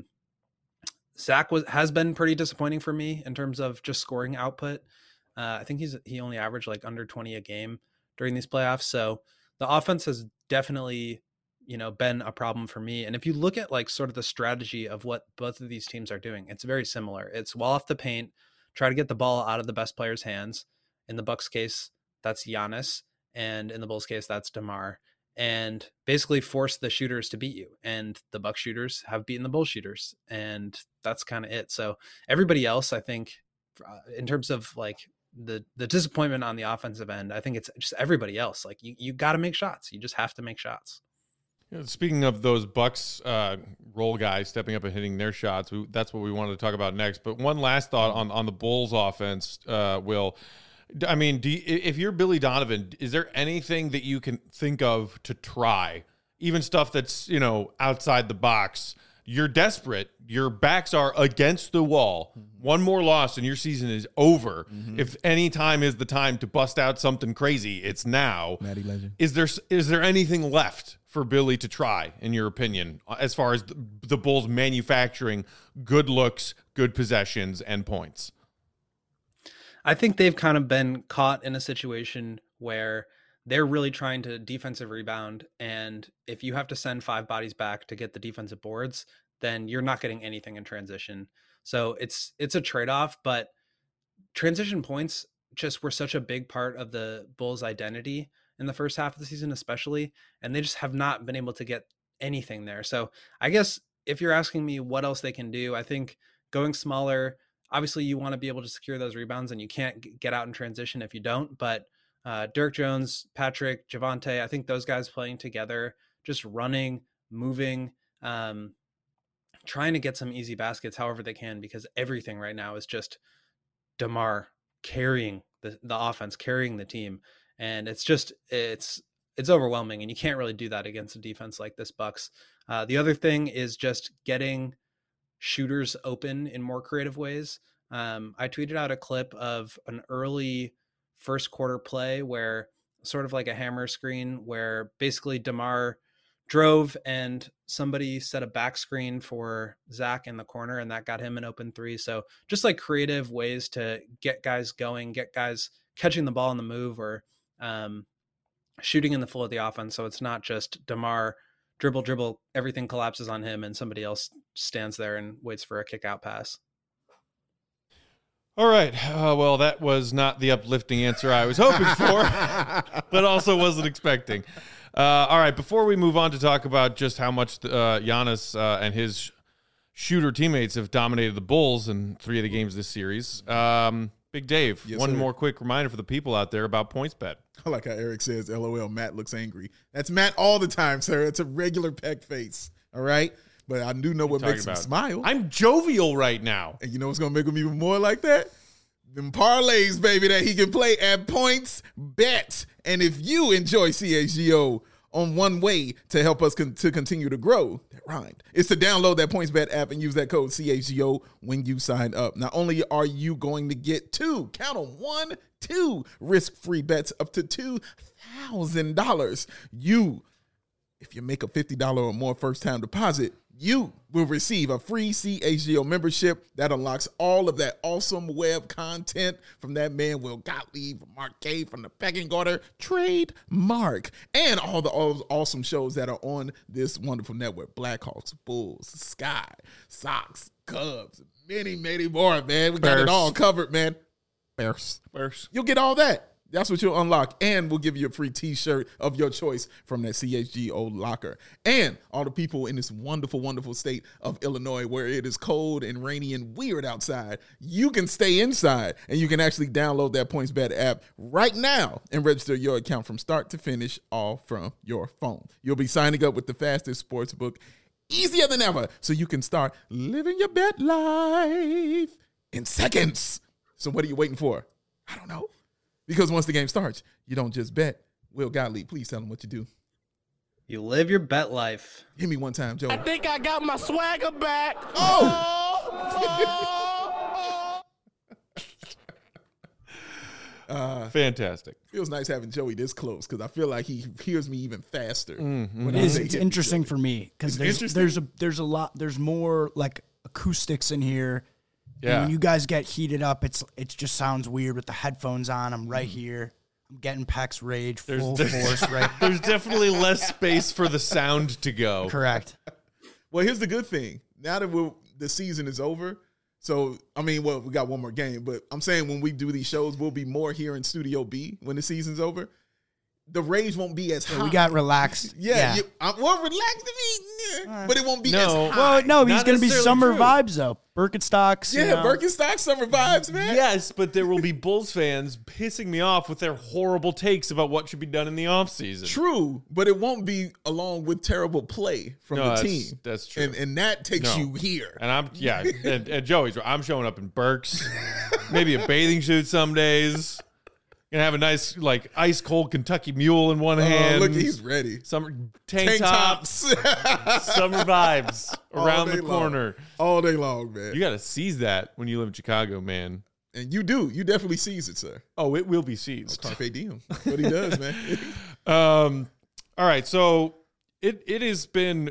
Zach was has been pretty disappointing for me in terms of just scoring output. Uh, I think he's he only averaged like under twenty a game during these playoffs. So the offense has definitely, you know, been a problem for me. And if you look at like sort of the strategy of what both of these teams are doing, it's very similar. It's wall off the paint, try to get the ball out of the best player's hands. In the Bucks case, that's Giannis, and in the Bulls case, that's DeMar. And basically force the shooters to beat you. And the Bucks shooters have beaten the Bulls shooters. And that's kind of it. So everybody else, I think, uh, in terms of like the the disappointment on the offensive end, I think it's just everybody else. Like you, you got to make shots. You just have to make shots. You know, speaking of those Bucks uh, role guys stepping up and hitting their shots, we, that's what we wanted to talk about next. But one last thought on, on the Bulls offense, uh, Will. I mean, do you, if you're Billy Donovan, is there anything that you can think of to try? Even stuff that's, you know, outside the box. You're desperate. Your backs are against the wall. Mm-hmm. One more loss and your season is over. Mm-hmm. If any time is the time to bust out something crazy, it's now. Matty Legend. Is there is there anything left for Billy to try, in your opinion, as far as the, the Bulls manufacturing good looks, good possessions, and points? I think they've kind of been caught in a situation where they're really trying to defensive rebound. And if you have to send five bodies back to get the defensive boards, then you're not getting anything in transition. So it's, it's a trade-off, but transition points just were such a big part of the Bulls' identity in the first half of the season, especially, and they just have not been able to get anything there. So I guess if you're asking me what else they can do, I think going smaller, obviously you want to be able to secure those rebounds, and you can't get out in transition if you don't, but uh, Derek Jones, Patrick, Javonte, I think those guys playing together, just running, moving, um, trying to get some easy baskets however they can, because everything right now is just DeMar carrying the, the offense, carrying the team. And it's just, it's, it's overwhelming, and you can't really do that against a defense like this Bucks. Uh, the other thing is just getting shooters open in more creative ways. Um, I tweeted out a clip of an early first quarter play where sort of like a hammer screen where basically DeMar drove and somebody set a back screen for Zach in the corner, and that got him an open three. So just like creative ways to get guys going, get guys catching the ball on the move or um, shooting in the flow of the offense. So it's not just DeMar dribble, dribble, everything collapses on him and somebody else stands there and waits for a kick out pass. All right. Uh, well, that was not the uplifting answer I was hoping for, but also wasn't expecting. Uh, all right. Before we move on to talk about just how much uh, Giannis uh, and his shooter teammates have dominated the Bulls in three of the games this series, um, Big Dave, Yes, one sir. more quick reminder for the people out there about PointsBet. I like how Eric says, L O L, Matt looks angry. That's Matt all the time, sir. It's a regular peck face. All right? But I do know what Talking makes him about- smile. I'm jovial right now. And you know what's going to make him even more like that? Them parlays, baby, that he can play at Points Bet. And if you enjoy C H G O on one way to help us con- to continue to grow, that rhymed, is to download that PointsBet app and use that code C H G O when you sign up. Not only are you going to get two, count on one, two risk-free bets up to two thousand dollars. You, if you make a fifty dollars or more first-time deposit, you will receive a free C H G O membership that unlocks all of that awesome web content from that man Will Gottlieb, from Mark K, from the Pecking Order, trademark, and all the all awesome shows that are on this wonderful network. Blackhawks, Bulls, Sky, Sox, Cubs, many, many more, man. We got Bears. it all covered, man. Bears. First. You'll get all that. That's what you'll unlock. And we'll give you a free t-shirt of your choice from that C H G O locker. And all the people in this wonderful, wonderful state of Illinois where it is cold and rainy and weird outside, you can stay inside and you can actually download that PointsBet app right now and register your account from start to finish, all from your phone. You'll be signing up with the fastest sports book, easier than ever, so you can start living your bet life in seconds. So what are you waiting for? I don't know. Because once the game starts, you don't just bet. Will Gottlieb, please tell them what you do. You live your bet life. Hit me one time, Joe. I think I got my swagger back. Oh! uh, Fantastic. feels nice having Joey this close because I feel like he hears me even faster. Mm-hmm. when It I is. say It's hit me, interesting Joey. for me because It's there's interesting? there's a there's a lot there's more like acoustics in here. And Yeah. when you guys get heated up, it's it just sounds weird with the headphones on. I'm right here. I'm getting Peck's rage There's- full there's- force. Right. There's definitely less space for the sound to go. Correct. Well, here's the good thing. Now that we're, the season is over, so, I mean, well, we got one more game, but I'm saying when we do these shows, we'll be more here in Studio B when the season's over. The rage won't be as high. Yeah, we got relaxed. Yeah, Yeah. You, I, well, relax to me, yeah, but it won't be No. as high. Well, no, he's Not gonna be necessarily summer true. vibes though. Birkenstocks. you Yeah, know. Birkenstock summer vibes, man. Yes, but there will be Bulls fans pissing me off with their horrible takes about what should be done in the offseason. True, but it won't be along with terrible play from No, the that's- team. that's true. And and that takes No. you here. And I'm, yeah, and, and Joey's right. I'm showing up in Birks, maybe a bathing suit some days. Gonna have a nice, like, ice cold Kentucky Mule in one Oh, hand. look, he's ready. Summer tank, Tank tops, tops summer vibes All around day the long. corner. all day long, man. You got to seize that when you live in Chicago, man. and you do. You definitely seize it, sir. Oh, it will be seized. Carpe diem. That's what he does, man. Um, all right, so it it has been,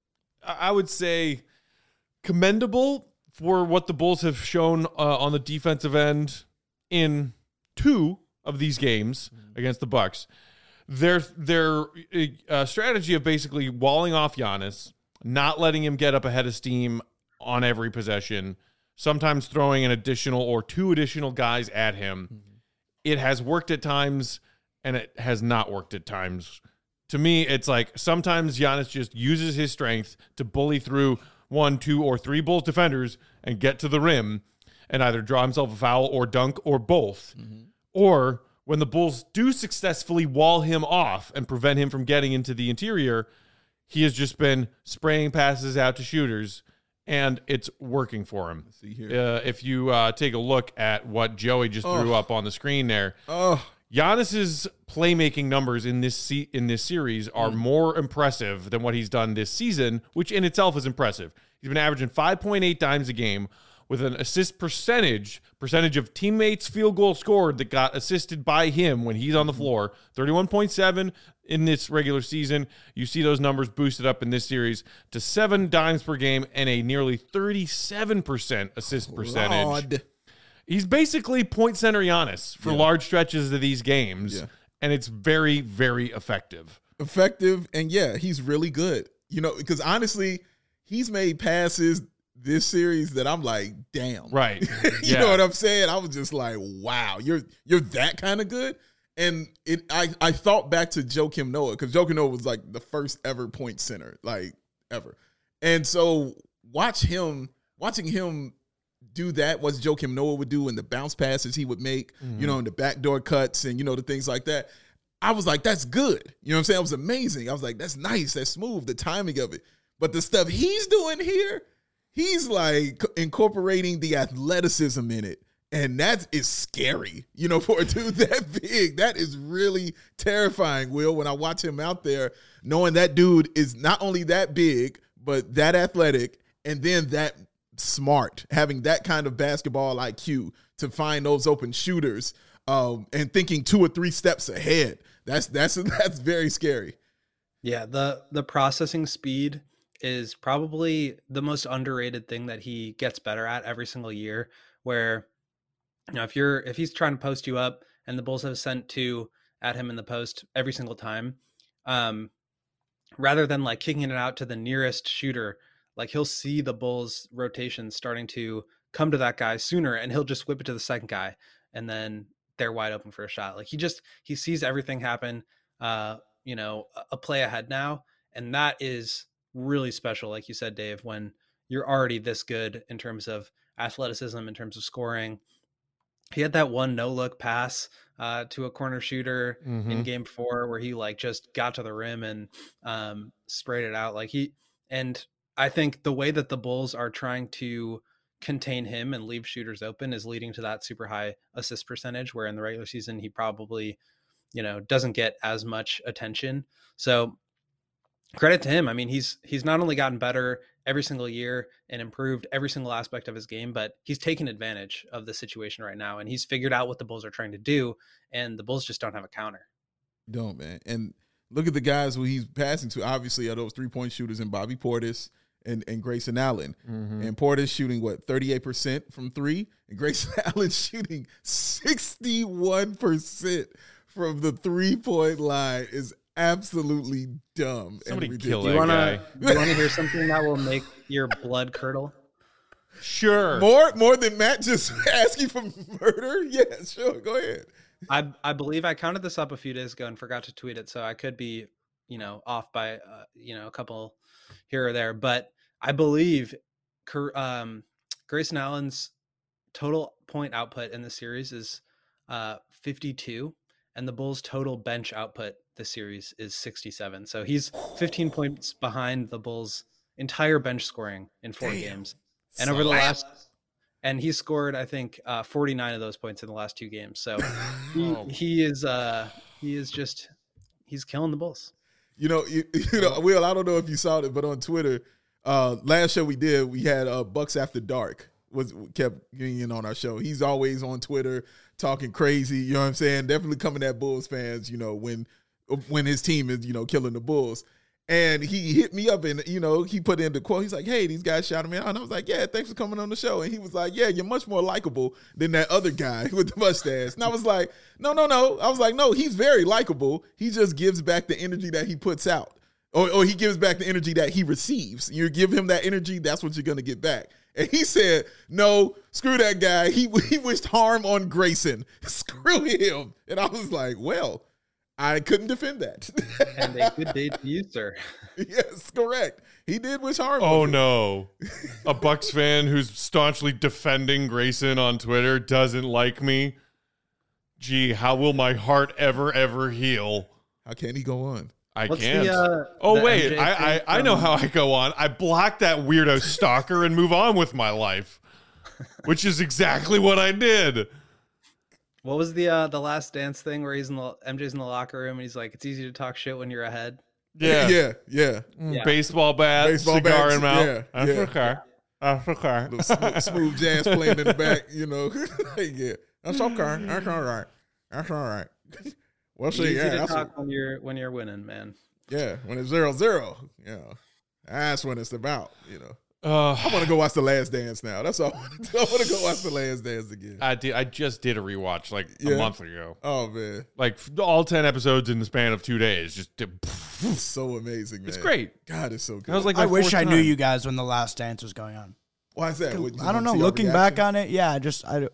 I would say, commendable for what the Bulls have shown uh, on the defensive end in two of these games against the Bucks. Their their uh, strategy of basically walling off Giannis, not letting him get up ahead of steam on every possession, sometimes throwing an additional or two additional guys at him. Mm-hmm. It has worked at times, and it has not worked at times. To me, it's like sometimes Giannis just uses his strength to bully through one, two, or three Bulls defenders and get to the rim and either draw himself a foul or dunk or both. Mm-hmm. Or when the Bulls do successfully wall him off and prevent him from getting into the interior, he has just been spraying passes out to shooters, and it's working for him. Let's see here. Uh, if you uh, take a look at what Joey just Oh. threw up on the screen there, Oh, Giannis's playmaking numbers in this se- in this series are Mm. more impressive than what he's done this season, which in itself is impressive. He's been averaging five point eight dimes a game with an assist percentage, percentage of teammates' field goal scored that got assisted by him when he's on the floor, thirty-one point seven in this regular season. You see those numbers boosted up in this series to seven dimes per game and a nearly thirty-seven percent assist percentage. Lord. He's basically point center Giannis for Yeah. large stretches of these games, Yeah. and it's very, very effective. Effective, and yeah, he's really good. You know, because honestly, he's made passes this series that I'm like, damn. Right. you Yeah. know what I'm saying? I was just like, wow, you're you're that kind of good. And it, I, I thought back to Joakim Noah, because Joakim Noah was like the first ever point center, like ever. And so watch him, watching him do that, what Joakim Noah would do, and the bounce passes he would make, mm-hmm. you know, and the backdoor cuts and, you know, the things like that. I was like, that's good. You know what I'm saying? It was amazing. I was like, that's nice. That's smooth. The timing of it. But the stuff he's doing here, he's like incorporating the athleticism in it. And that is scary, you know, for a dude that big. That is really terrifying, Will, when I watch him out there, knowing that dude is not only that big, but that athletic, and then that smart, having that kind of basketball I Q to find those open shooters, um, and thinking two or three steps ahead. That's that's that's very scary. Yeah, the the processing speed is probably the most underrated thing that he gets better at every single year, where, you know, if you're if he's trying to post you up and the Bulls have sent two at him in the post every single time, um, rather than like kicking it out to the nearest shooter, like he'll see the Bulls rotation starting to come to that guy sooner, and he'll just whip it to the second guy, and then they're wide open for a shot. Like he just he sees everything happen, uh, you know, a play ahead now, and that is really special. Like you said, Dave, when you're already this good in terms of athleticism, in terms of scoring. He had that one no look pass uh, to a corner shooter mm-hmm. in game four where he like just got to the rim and um, sprayed it out. Like he, and I think the way that the Bulls are trying to contain him and leave shooters open is leading to that super high assist percentage, where in the regular season, he probably, you know, doesn't get as much attention. So credit to him. I mean, he's, he's not only gotten better every single year and improved every single aspect of his game, but he's taken advantage of the situation right now, and he's figured out what the Bulls are trying to do, and the Bulls just don't have a counter. Don't, man. And look at the guys who he's passing to. Obviously, are those three-point shooters in Bobby Portis and, and Grayson Allen. Mm-hmm. And Portis shooting, what, thirty-eight percent from three? And Grayson Allen shooting sixty-one percent from the three-point line is absolutely dumb. Somebody and kill do you that wanna, guy. Do you want to hear something that will make your blood curdle? Sure. More more than Matt just asking for murder? Yeah, sure. Go ahead. I I believe I counted this up a few days ago and forgot to tweet it, so I could be, you know, off by, uh, you know, a couple here or there. But I believe um, Grayson Allen's total point output in the series is uh, fifty-two, and the Bulls' total bench output this series is sixty-seven. So he's fifteen points behind the Bulls' entire bench scoring in four Damn. games. And over the last, and he scored, I think, uh, forty-nine of those points in the last two games. So he, oh. he is, uh, he is just, he's killing the Bulls. You know, you, you know, Will, I don't know if you saw it, but on Twitter, uh, last show we did, we had uh, Bucks After Dark was kept getting in on our show. He's always on Twitter talking crazy. You know what I'm saying? Definitely coming at Bulls fans, you know, when, when his team is, you know, killing the Bulls. And he hit me up and, you know, he put in the quote. He's like, hey, these guys shouted me out. And I was like, yeah, thanks for coming on the show. And he was like, yeah, you're much more likable than that other guy with the mustache. And I was like, no, no, no. I was like, no, he's very likable. He just gives back the energy that he puts out. Or, or he gives back the energy that he receives. You give him that energy, that's what you're going to get back. And he said, no, screw that guy. He, he wished harm on Grayson. Screw him. And I was like, well, I couldn't defend that. And a good day to you, sir. Yes, correct. He did wish harm. Oh, no. A Bucks fan who's staunchly defending Grayson on Twitter doesn't like me. Gee, how will my heart ever, ever heal? How can he go on? I What's can't. The, uh, oh, wait. I, I, I know how I go on. I block that weirdo stalker and move on with my life, which is exactly what I did. What was the uh, the Last Dance thing where he's in the M J's in the locker room and he's like, it's easy to talk shit when you're ahead. Yeah, yeah, yeah. yeah. Baseball bat, Baseball cigar bats, in mouth. Yeah, That's yeah. okay. That's okay. Little smooth, smooth jazz playing in the back, you know. Yeah, that's okay. That's all right. That's all right. We'll see. Easy Yeah, to that's talk what, when you're when you're winning, man. yeah. When it's zero zero, you know, that's when it's about, you know. Uh, I want to go watch The Last Dance now. That's all. I want to do. I want to go watch The Last Dance again. I did. I just did a rewatch like Yeah. a month ago. Oh man, Like all ten episodes in the span of two days. Just did, it's so amazing, man. it's great. God, it's so good. That was like I my wish fourth I knew time. you guys when The Last Dance was going on. Why is that? What, you I don't wanna know. see our Looking back reaction? on it, yeah, I just I,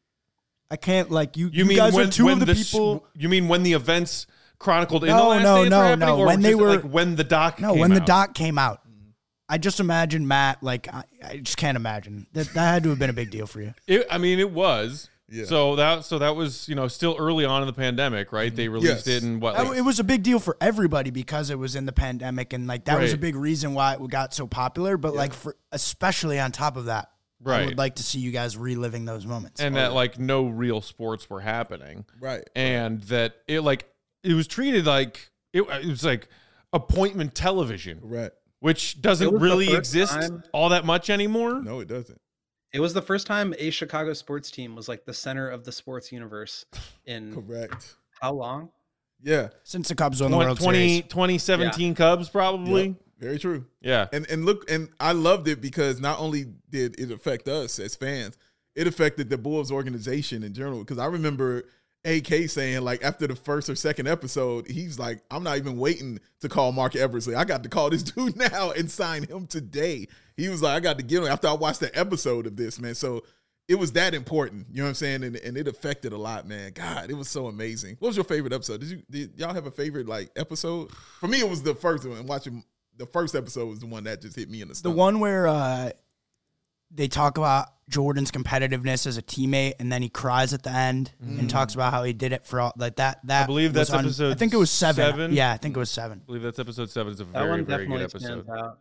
I can't like you. You, You, mean guys when, are two when of the, sh- people. you mean when the events chronicled in No, the Last no, Dance no, were happening, no. or When they just, were- like when the doc No, came when the out? doc came out, I just imagine Matt. Like I, I just can't imagine that. That had to have been a big deal for you. It, I mean, it was. Yeah. So that so that was you know still early on in the pandemic, right? They released Yes. it in what? That- Like, it was a big deal for everybody because it was in the pandemic, and like that was a Right. big reason why it got so popular. But like for especially on top of that, I Right. would like to see you guys reliving those moments. and that like no real sports were happening, Right. and that it like it was treated like it, it was like appointment television, Right. which It doesn't was the really first exist time- all that much anymore. No, it doesn't. It was the first time a Chicago sports team was like the center of the sports universe in Correct. how long? Yeah. Since the Cubs won the World twenty, Series, twenty seventeen Cubs probably. Yep. Very true. Yeah. And and look, and I loved it because not only did it affect us as fans, it affected the Bulls organization in general. Because I remember A K saying, like, after the first or second episode, he's like, I'm not even waiting to call Mark Eversley. I got to call this dude now and sign him today. He was like, I got to get him after I watched the episode of this, man. So it was that important. You know what I'm saying? And, and it affected a lot, man. God, it was so amazing. What was your favorite episode? Did you did y'all have a favorite like episode? For me, it was the first one. And watching the first episode was the one that just hit me in the the stomach. one where uh, they talk about Jordan's competitiveness as a teammate, and then he cries at the end and talks about how he did it for all like that. That I believe was that's on- episode I think it was seven. seven? Yeah, I think it was seven. I believe that's episode seven. It's a That very, one very good definitely episode. stands out.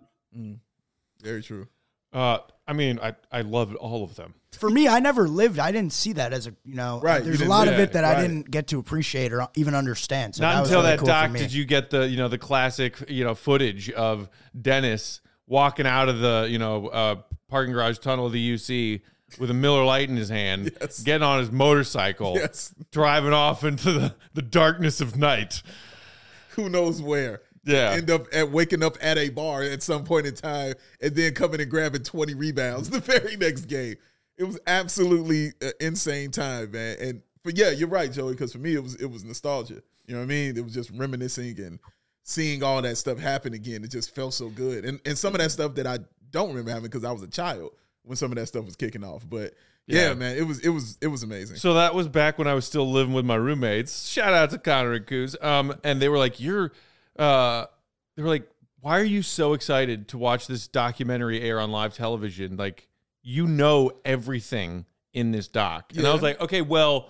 Very true. Uh, I mean, I, I loved all of them. For me, I never lived. I didn't see that as a you know. Right, you There's a didn't lot live of it it, that right. I didn't get to appreciate or even understand. So Not that was until really that cool for doc me. did you get the, you know, the classic, you know, footage of Dennis walking out of the, you know, uh, parking garage tunnel of the U C with a Miller Lite in his hand, Yes. getting on his motorcycle, Yes. driving off into the, the darkness of night. Who knows where? Yeah. End up at waking up at a bar at some point in time and then coming and grabbing twenty rebounds the very next game. It was absolutely an insane time, man. And but yeah, you're right, Joey, because for me it was it was nostalgia. You know what I mean? It was just reminiscing and seeing all that stuff happen again. It just felt so good. And and some of that stuff that I don't remember having because I was a child when some of that stuff was kicking off. But yeah, Yeah. man, it was it was it was amazing. So that was back when I was still living with my roommates. Shout out to Connor and Coos. Um, and they were like, "You're," uh, they were like, "Why are you so excited to watch this documentary air on live television? Like, you know everything in this doc." And I Yeah. was like, "Okay, well,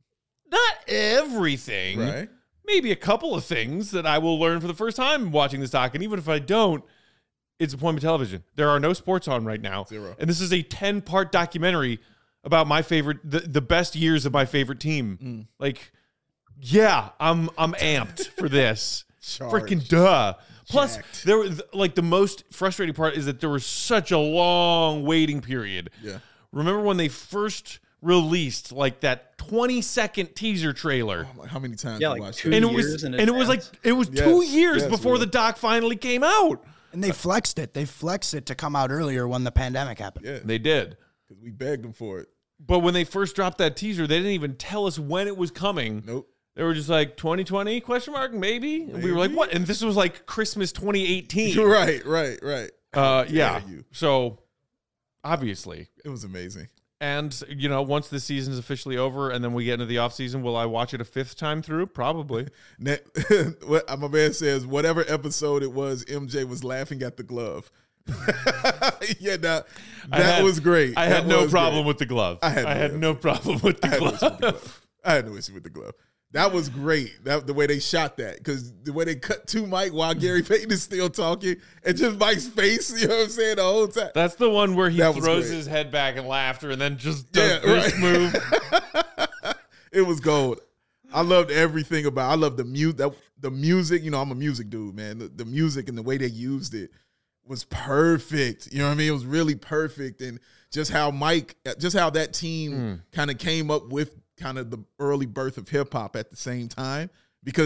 not everything. Right? Maybe a couple of things that I will learn for the first time watching this doc. And even if I don't, it's appointment television. There are no sports on right now. Zero. And this is a ten-part documentary about my favorite, the, the best years of my favorite team. Mm. Like, yeah, I'm I'm amped for this. Charged. Freaking duh. Plus, Jacked. there was like the most frustrating part is that there was such a long waiting period. Yeah. Remember when they first released like that twenty second teaser trailer? I'm like, how many times Yeah, you like watched two it? And it years was in and it was like advance. it was Yes, two years yes, before Will. the doc finally came out. And they flexed it. They flexed it to come out earlier when the pandemic happened. Yeah, They did. because we begged them for it. But when they first dropped that teaser, they didn't even tell us when it was coming. Nope. They were just like twenty twenty question mark maybe. And we were like, Maybe? what? And this was like Christmas twenty eighteen. You're right, right, right. Uh, How yeah. dare you. So obviously, It was amazing. and you know, once the season is officially over, and then we get into the off season, will I watch it a fifth time through? Probably. Ne- what my man says, whatever episode it was, M J was laughing at the glove. yeah, that, I that had- was great. I That had no was problem great. with the glove. I had I no had issue. no problem with the I had no issue with the glove. glove. I had no issue with the glove. That was great. That the way they shot that, because the way they cut to Mike while Gary Payton is still talking, and just Mike's face, you know what I'm saying, the whole time. That's the one where he That was throws great. his head back in laughter and then just does Yeah, this right. move. It was gold. I loved everything about. I love the mute that the music. You know, I'm a music dude, man. The, the music and the way they used it was perfect. You know what I mean? It was really perfect, and just how Mike, just how that team kind of came up with kind of the early birth of hip hop at the same time, because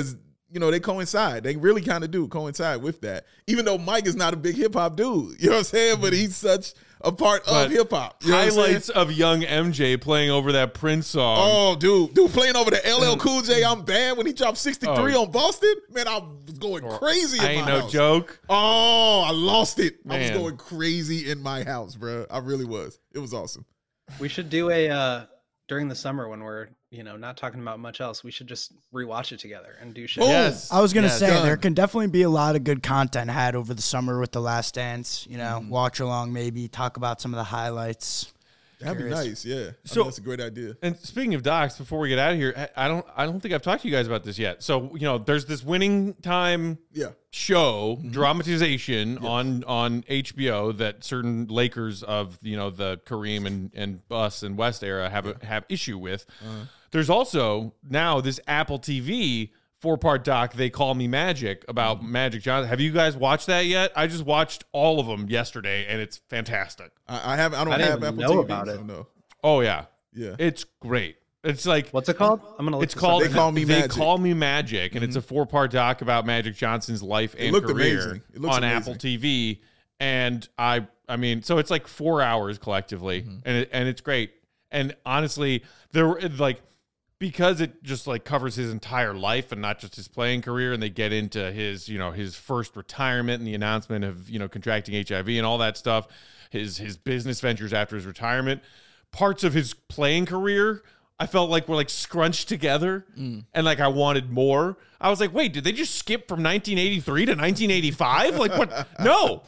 you know, they coincide. They really kind of do coincide with that. Even though Mike is not a big hip hop dude, you know what I'm saying? But he's such a part But of hip hop. You know what I'm highlights saying? of young M J playing over that Prince song. Oh, dude, dude, playing over the L L Cool J, I'm bad when he dropped sixty-three Oh. on Boston. Man, I was going crazy in I ain't my no house. joke. Oh, I lost it. I was Man. going crazy in my house, bro. I really was. It was awesome. We should do a uh during the summer when we're, you know, not talking about much else. We should just rewatch it together and do shit. Boom. Yes. I was gonna Yes. say Done. there can definitely be a lot of good content had over the summer with The Last Dance. You know, Mm-hmm. watch along, maybe talk about some of the highlights. That'd be Curious. nice. Yeah. I So- think that's a great idea. And speaking of docs, before we get out of here, I I don't I don't think I've talked to you guys about this yet. So, you know, there's this Winning Time Yeah. show Mm-hmm. dramatization on on H B O that certain Lakers of, you know, the Kareem and and Bus and West era have a, have issue with. Uh-huh. There's also now this Apple T V four-part doc, They Call Me Magic, about Mm-hmm. Magic Johnson. Have you guys watched that yet? I just watched all of them yesterday, and it's fantastic. I, I haven't. I don't I didn't have even Apple know T V, about so it. no. Oh yeah, Yeah. it's great. It's like What's it called? I'm gonna look it's this called up. They Call Me They Magic. Call Me Magic, and it's a four-part doc about Magic Johnson's life and looked career amazing. It looks on amazing. Apple T V. And I, I mean, so it's like four hours collectively, Mm-hmm. and it, and it's great. And honestly, there were like because it just like covers his entire life and not just his playing career, and they get into his, you know, his first retirement and the announcement of, you know, contracting H I V and all that stuff, his his business ventures after his retirement, parts of his playing career I felt like were like scrunched together, and like I wanted more. I was like, wait, did they just skip from nineteen eighty-three to nineteen eighty-five? Like what? No,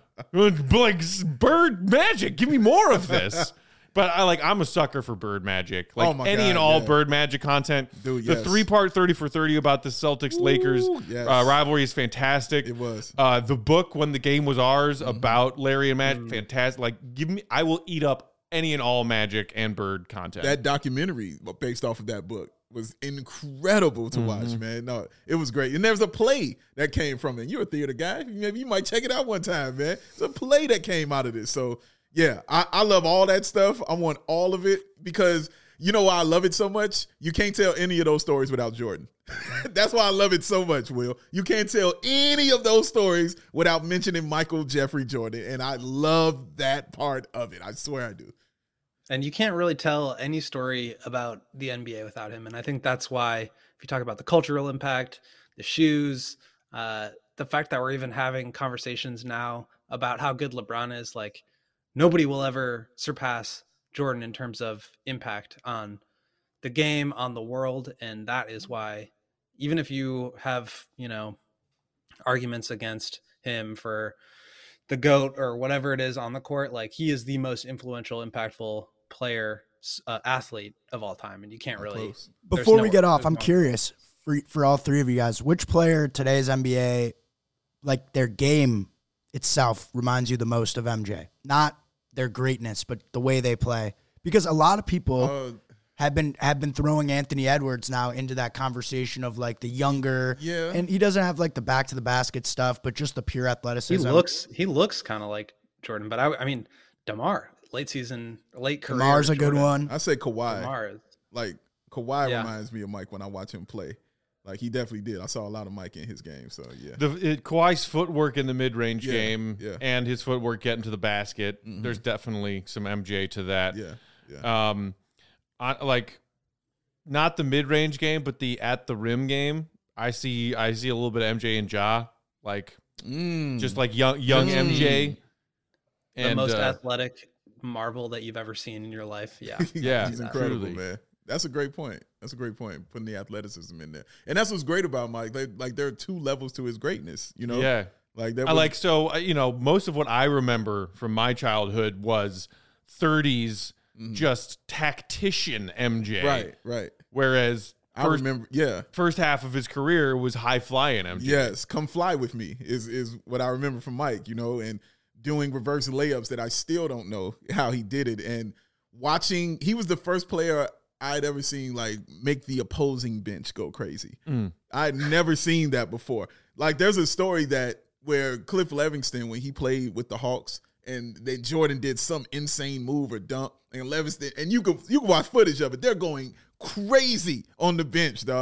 like Bird Magic, give me more of this. But I like I'm a sucker for Bird Magic, like Oh my any God, and all yeah. Bird Magic content. Dude, the yes. three part thirty for thirty about the Celtics Lakers yes. uh, rivalry is fantastic. It was. Uh, the book When the Game Was Ours Mm-hmm. about Larry and Magic, Mm. fantastic. Like give me, I will eat up any and all Magic and Bird content. That documentary based off of that book was incredible to watch, man. No, it was great. And there's a play that came from it. You're a theater guy. Maybe you might check it out one time, man. It's a play that came out of this. So, yeah, I, I love all that stuff. I want all of it because you know why I love it so much? You can't tell any of those stories without Jordan. That's why I love it so much, Will. You can't tell any of those stories without mentioning Michael Jeffrey Jordan. And I love that part of it. I swear I do. And you can't really tell any story about the N B A without him. And I think that's why, if you talk about the cultural impact, the shoes, uh, the fact that we're even having conversations now about how good LeBron is, like nobody will ever surpass Jordan in terms of impact on the game, on the world. And that is why, even if you have, you know, arguments against him for the GOAT or whatever it is on the court, like he is the most influential, impactful player, uh, athlete of all time. And you can't really, Close. there's Before no- we get off, there's I'm no- curious for for all three of you guys, which player today's N B A, like their game itself, reminds you the most of M J? Not their greatness, but the way they play. Because a lot of people Uh, have been have been throwing Anthony Edwards now into that conversation of like the younger, Yeah. and he doesn't have like the back to the basket stuff, but just the pure He athleticism. looks, he looks kind of like Jordan, but I, I mean, DeMar, late season, late career. Lamar's a good Jordan. one. I say Kawhi. DeMar is, Like Kawhi Yeah. reminds me of Mike when I watch him play. Like he definitely did. I saw a lot of Mike in his game. So yeah. The it, Kawhi's footwork in the mid-range Yeah, game yeah. and his footwork getting to the basket, there's definitely some M J to that. Yeah. Yeah. Um, I, like not the mid-range game, but the at the rim game. I see, I see a little bit of M J and Ja, like Mm. just like young, young M J. the And most uh, athletic marvel that you've ever seen in your life. Yeah. Yeah, He's incredible, truly. man. That's a great point. That's a great point. Putting the athleticism in there. And that's what's great about Mike. Like, like there are two levels to his greatness, you know? yeah. Like that I was- like so uh, you know most of what I remember from my childhood was thirties, just tactician M J. Right, right. Whereas I first, remember yeah. first half of his career was high flying M J. Yes, come fly with me is is what I remember from Mike, you know, and doing reverse layups that I still don't know how he did it. And watching, he was the first player I'd ever seen like make the opposing bench go crazy. Mm. I'd never seen that before. Like there's a story that where Cliff Levingston, when he played with the Hawks, and then Jordan did some insane move or dunk, and Levingston, and you can you can watch footage of it. They're going crazy on the bench, dog.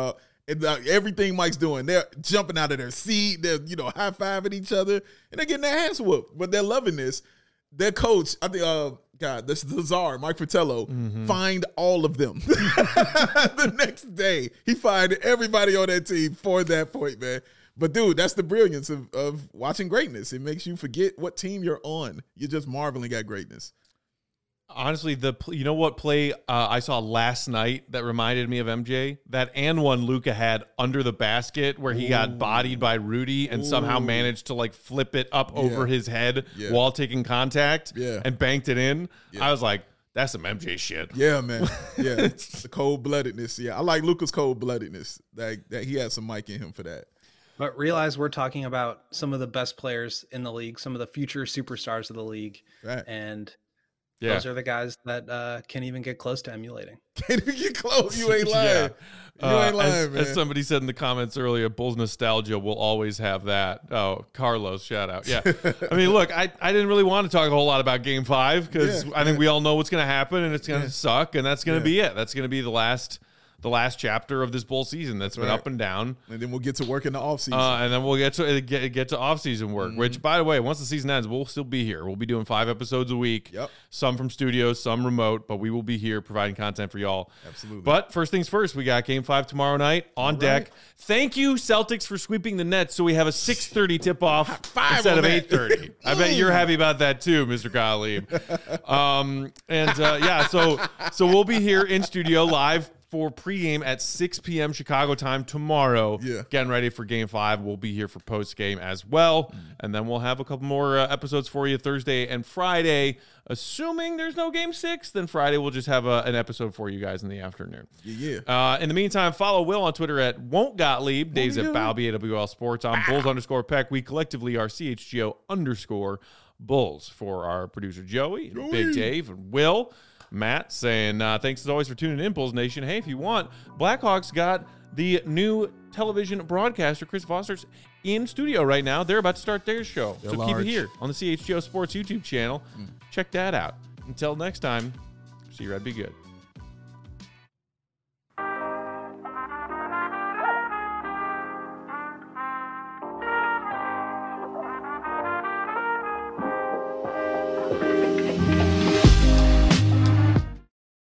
And uh, everything Mike's doing, they're jumping out of their seat. They're, you know, high-fiving each other, and they're getting their ass whooped. But they're loving this. Their coach, I think, uh, God, this is the czar, Mike Fratello, mm-hmm. fined all of them. The next day, he fined everybody on that team for that point, man. But, dude, that's the brilliance of, of watching greatness. It makes you forget what team you're on. You're just marveling at greatness. Honestly, the you know what play uh, I saw last night that reminded me of M J? That and one Luka had under the basket where he Ooh. got bodied by Rudy and Ooh. somehow managed to like flip it up yeah. over his head yeah. while taking contact yeah. and banked it in. Yeah. I was like, that's some M J shit. Yeah, man. Yeah, the cold-bloodedness. Yeah, I like Luka's cold-bloodedness. That, that he has some Mike in him for that. But realize we're talking about some of the best players in the league, some of the future superstars of the league. Right. And yeah. those are the guys that uh, can't even get close to emulating. Can't even get close. You ain't lying. yeah. You uh, ain't lying, as, man. As somebody said in the comments earlier, Bulls nostalgia will always have that. Oh, Carlos, shout out. Yeah. I mean, look, I, I didn't really want to talk a whole lot about game five because yeah, I think yeah. we all know what's going to happen and it's going to yeah. suck. And that's going to yeah. be it. That's going to be the last the last chapter of this Bull season that's been right. up and down. And then we'll get to work in the offseason. Uh, and then we'll get to get, get to offseason work, mm-hmm. which, by the way, once the season ends, we'll still be here. We'll be doing five episodes a week, yep. some from studios, some remote, but we will be here providing content for y'all. Absolutely. But first things first, we got game five tomorrow night on All deck. Right. Thank you, Celtics, for sweeping the Nets so we have a six thirty tip-off instead of eight thirty. I bet you're happy about that too, Mister Gottlieb. um, and, uh, yeah, so so we'll be here in studio live for pregame at six p.m. Chicago time tomorrow. Yeah. Getting ready for game five. We'll be here for postgame as well. Mm. And then we'll have a couple more uh, episodes for you Thursday and Friday. Assuming there's no game six, then Friday we'll just have a, an episode for you guys in the afternoon. Yeah, yeah. Uh, in the meantime, follow Will on Twitter at Won't Gottlieb, Dave's at Balby, A W L Sports. I'm Bulls underscore Peck. We collectively are C H G O underscore Bulls. For our producer Joey, and Big Dave, and Will. Matt saying, uh, thanks as always for tuning in, Bulls Nation. Hey, if you want, Blackhawks got the new television broadcaster, Chris Foster's, in studio right now. They're about to start their show. They're so large. Keep it here on the C H G O Sports YouTube channel. Mm. Check that out. Until next time, see you, Red. Be good.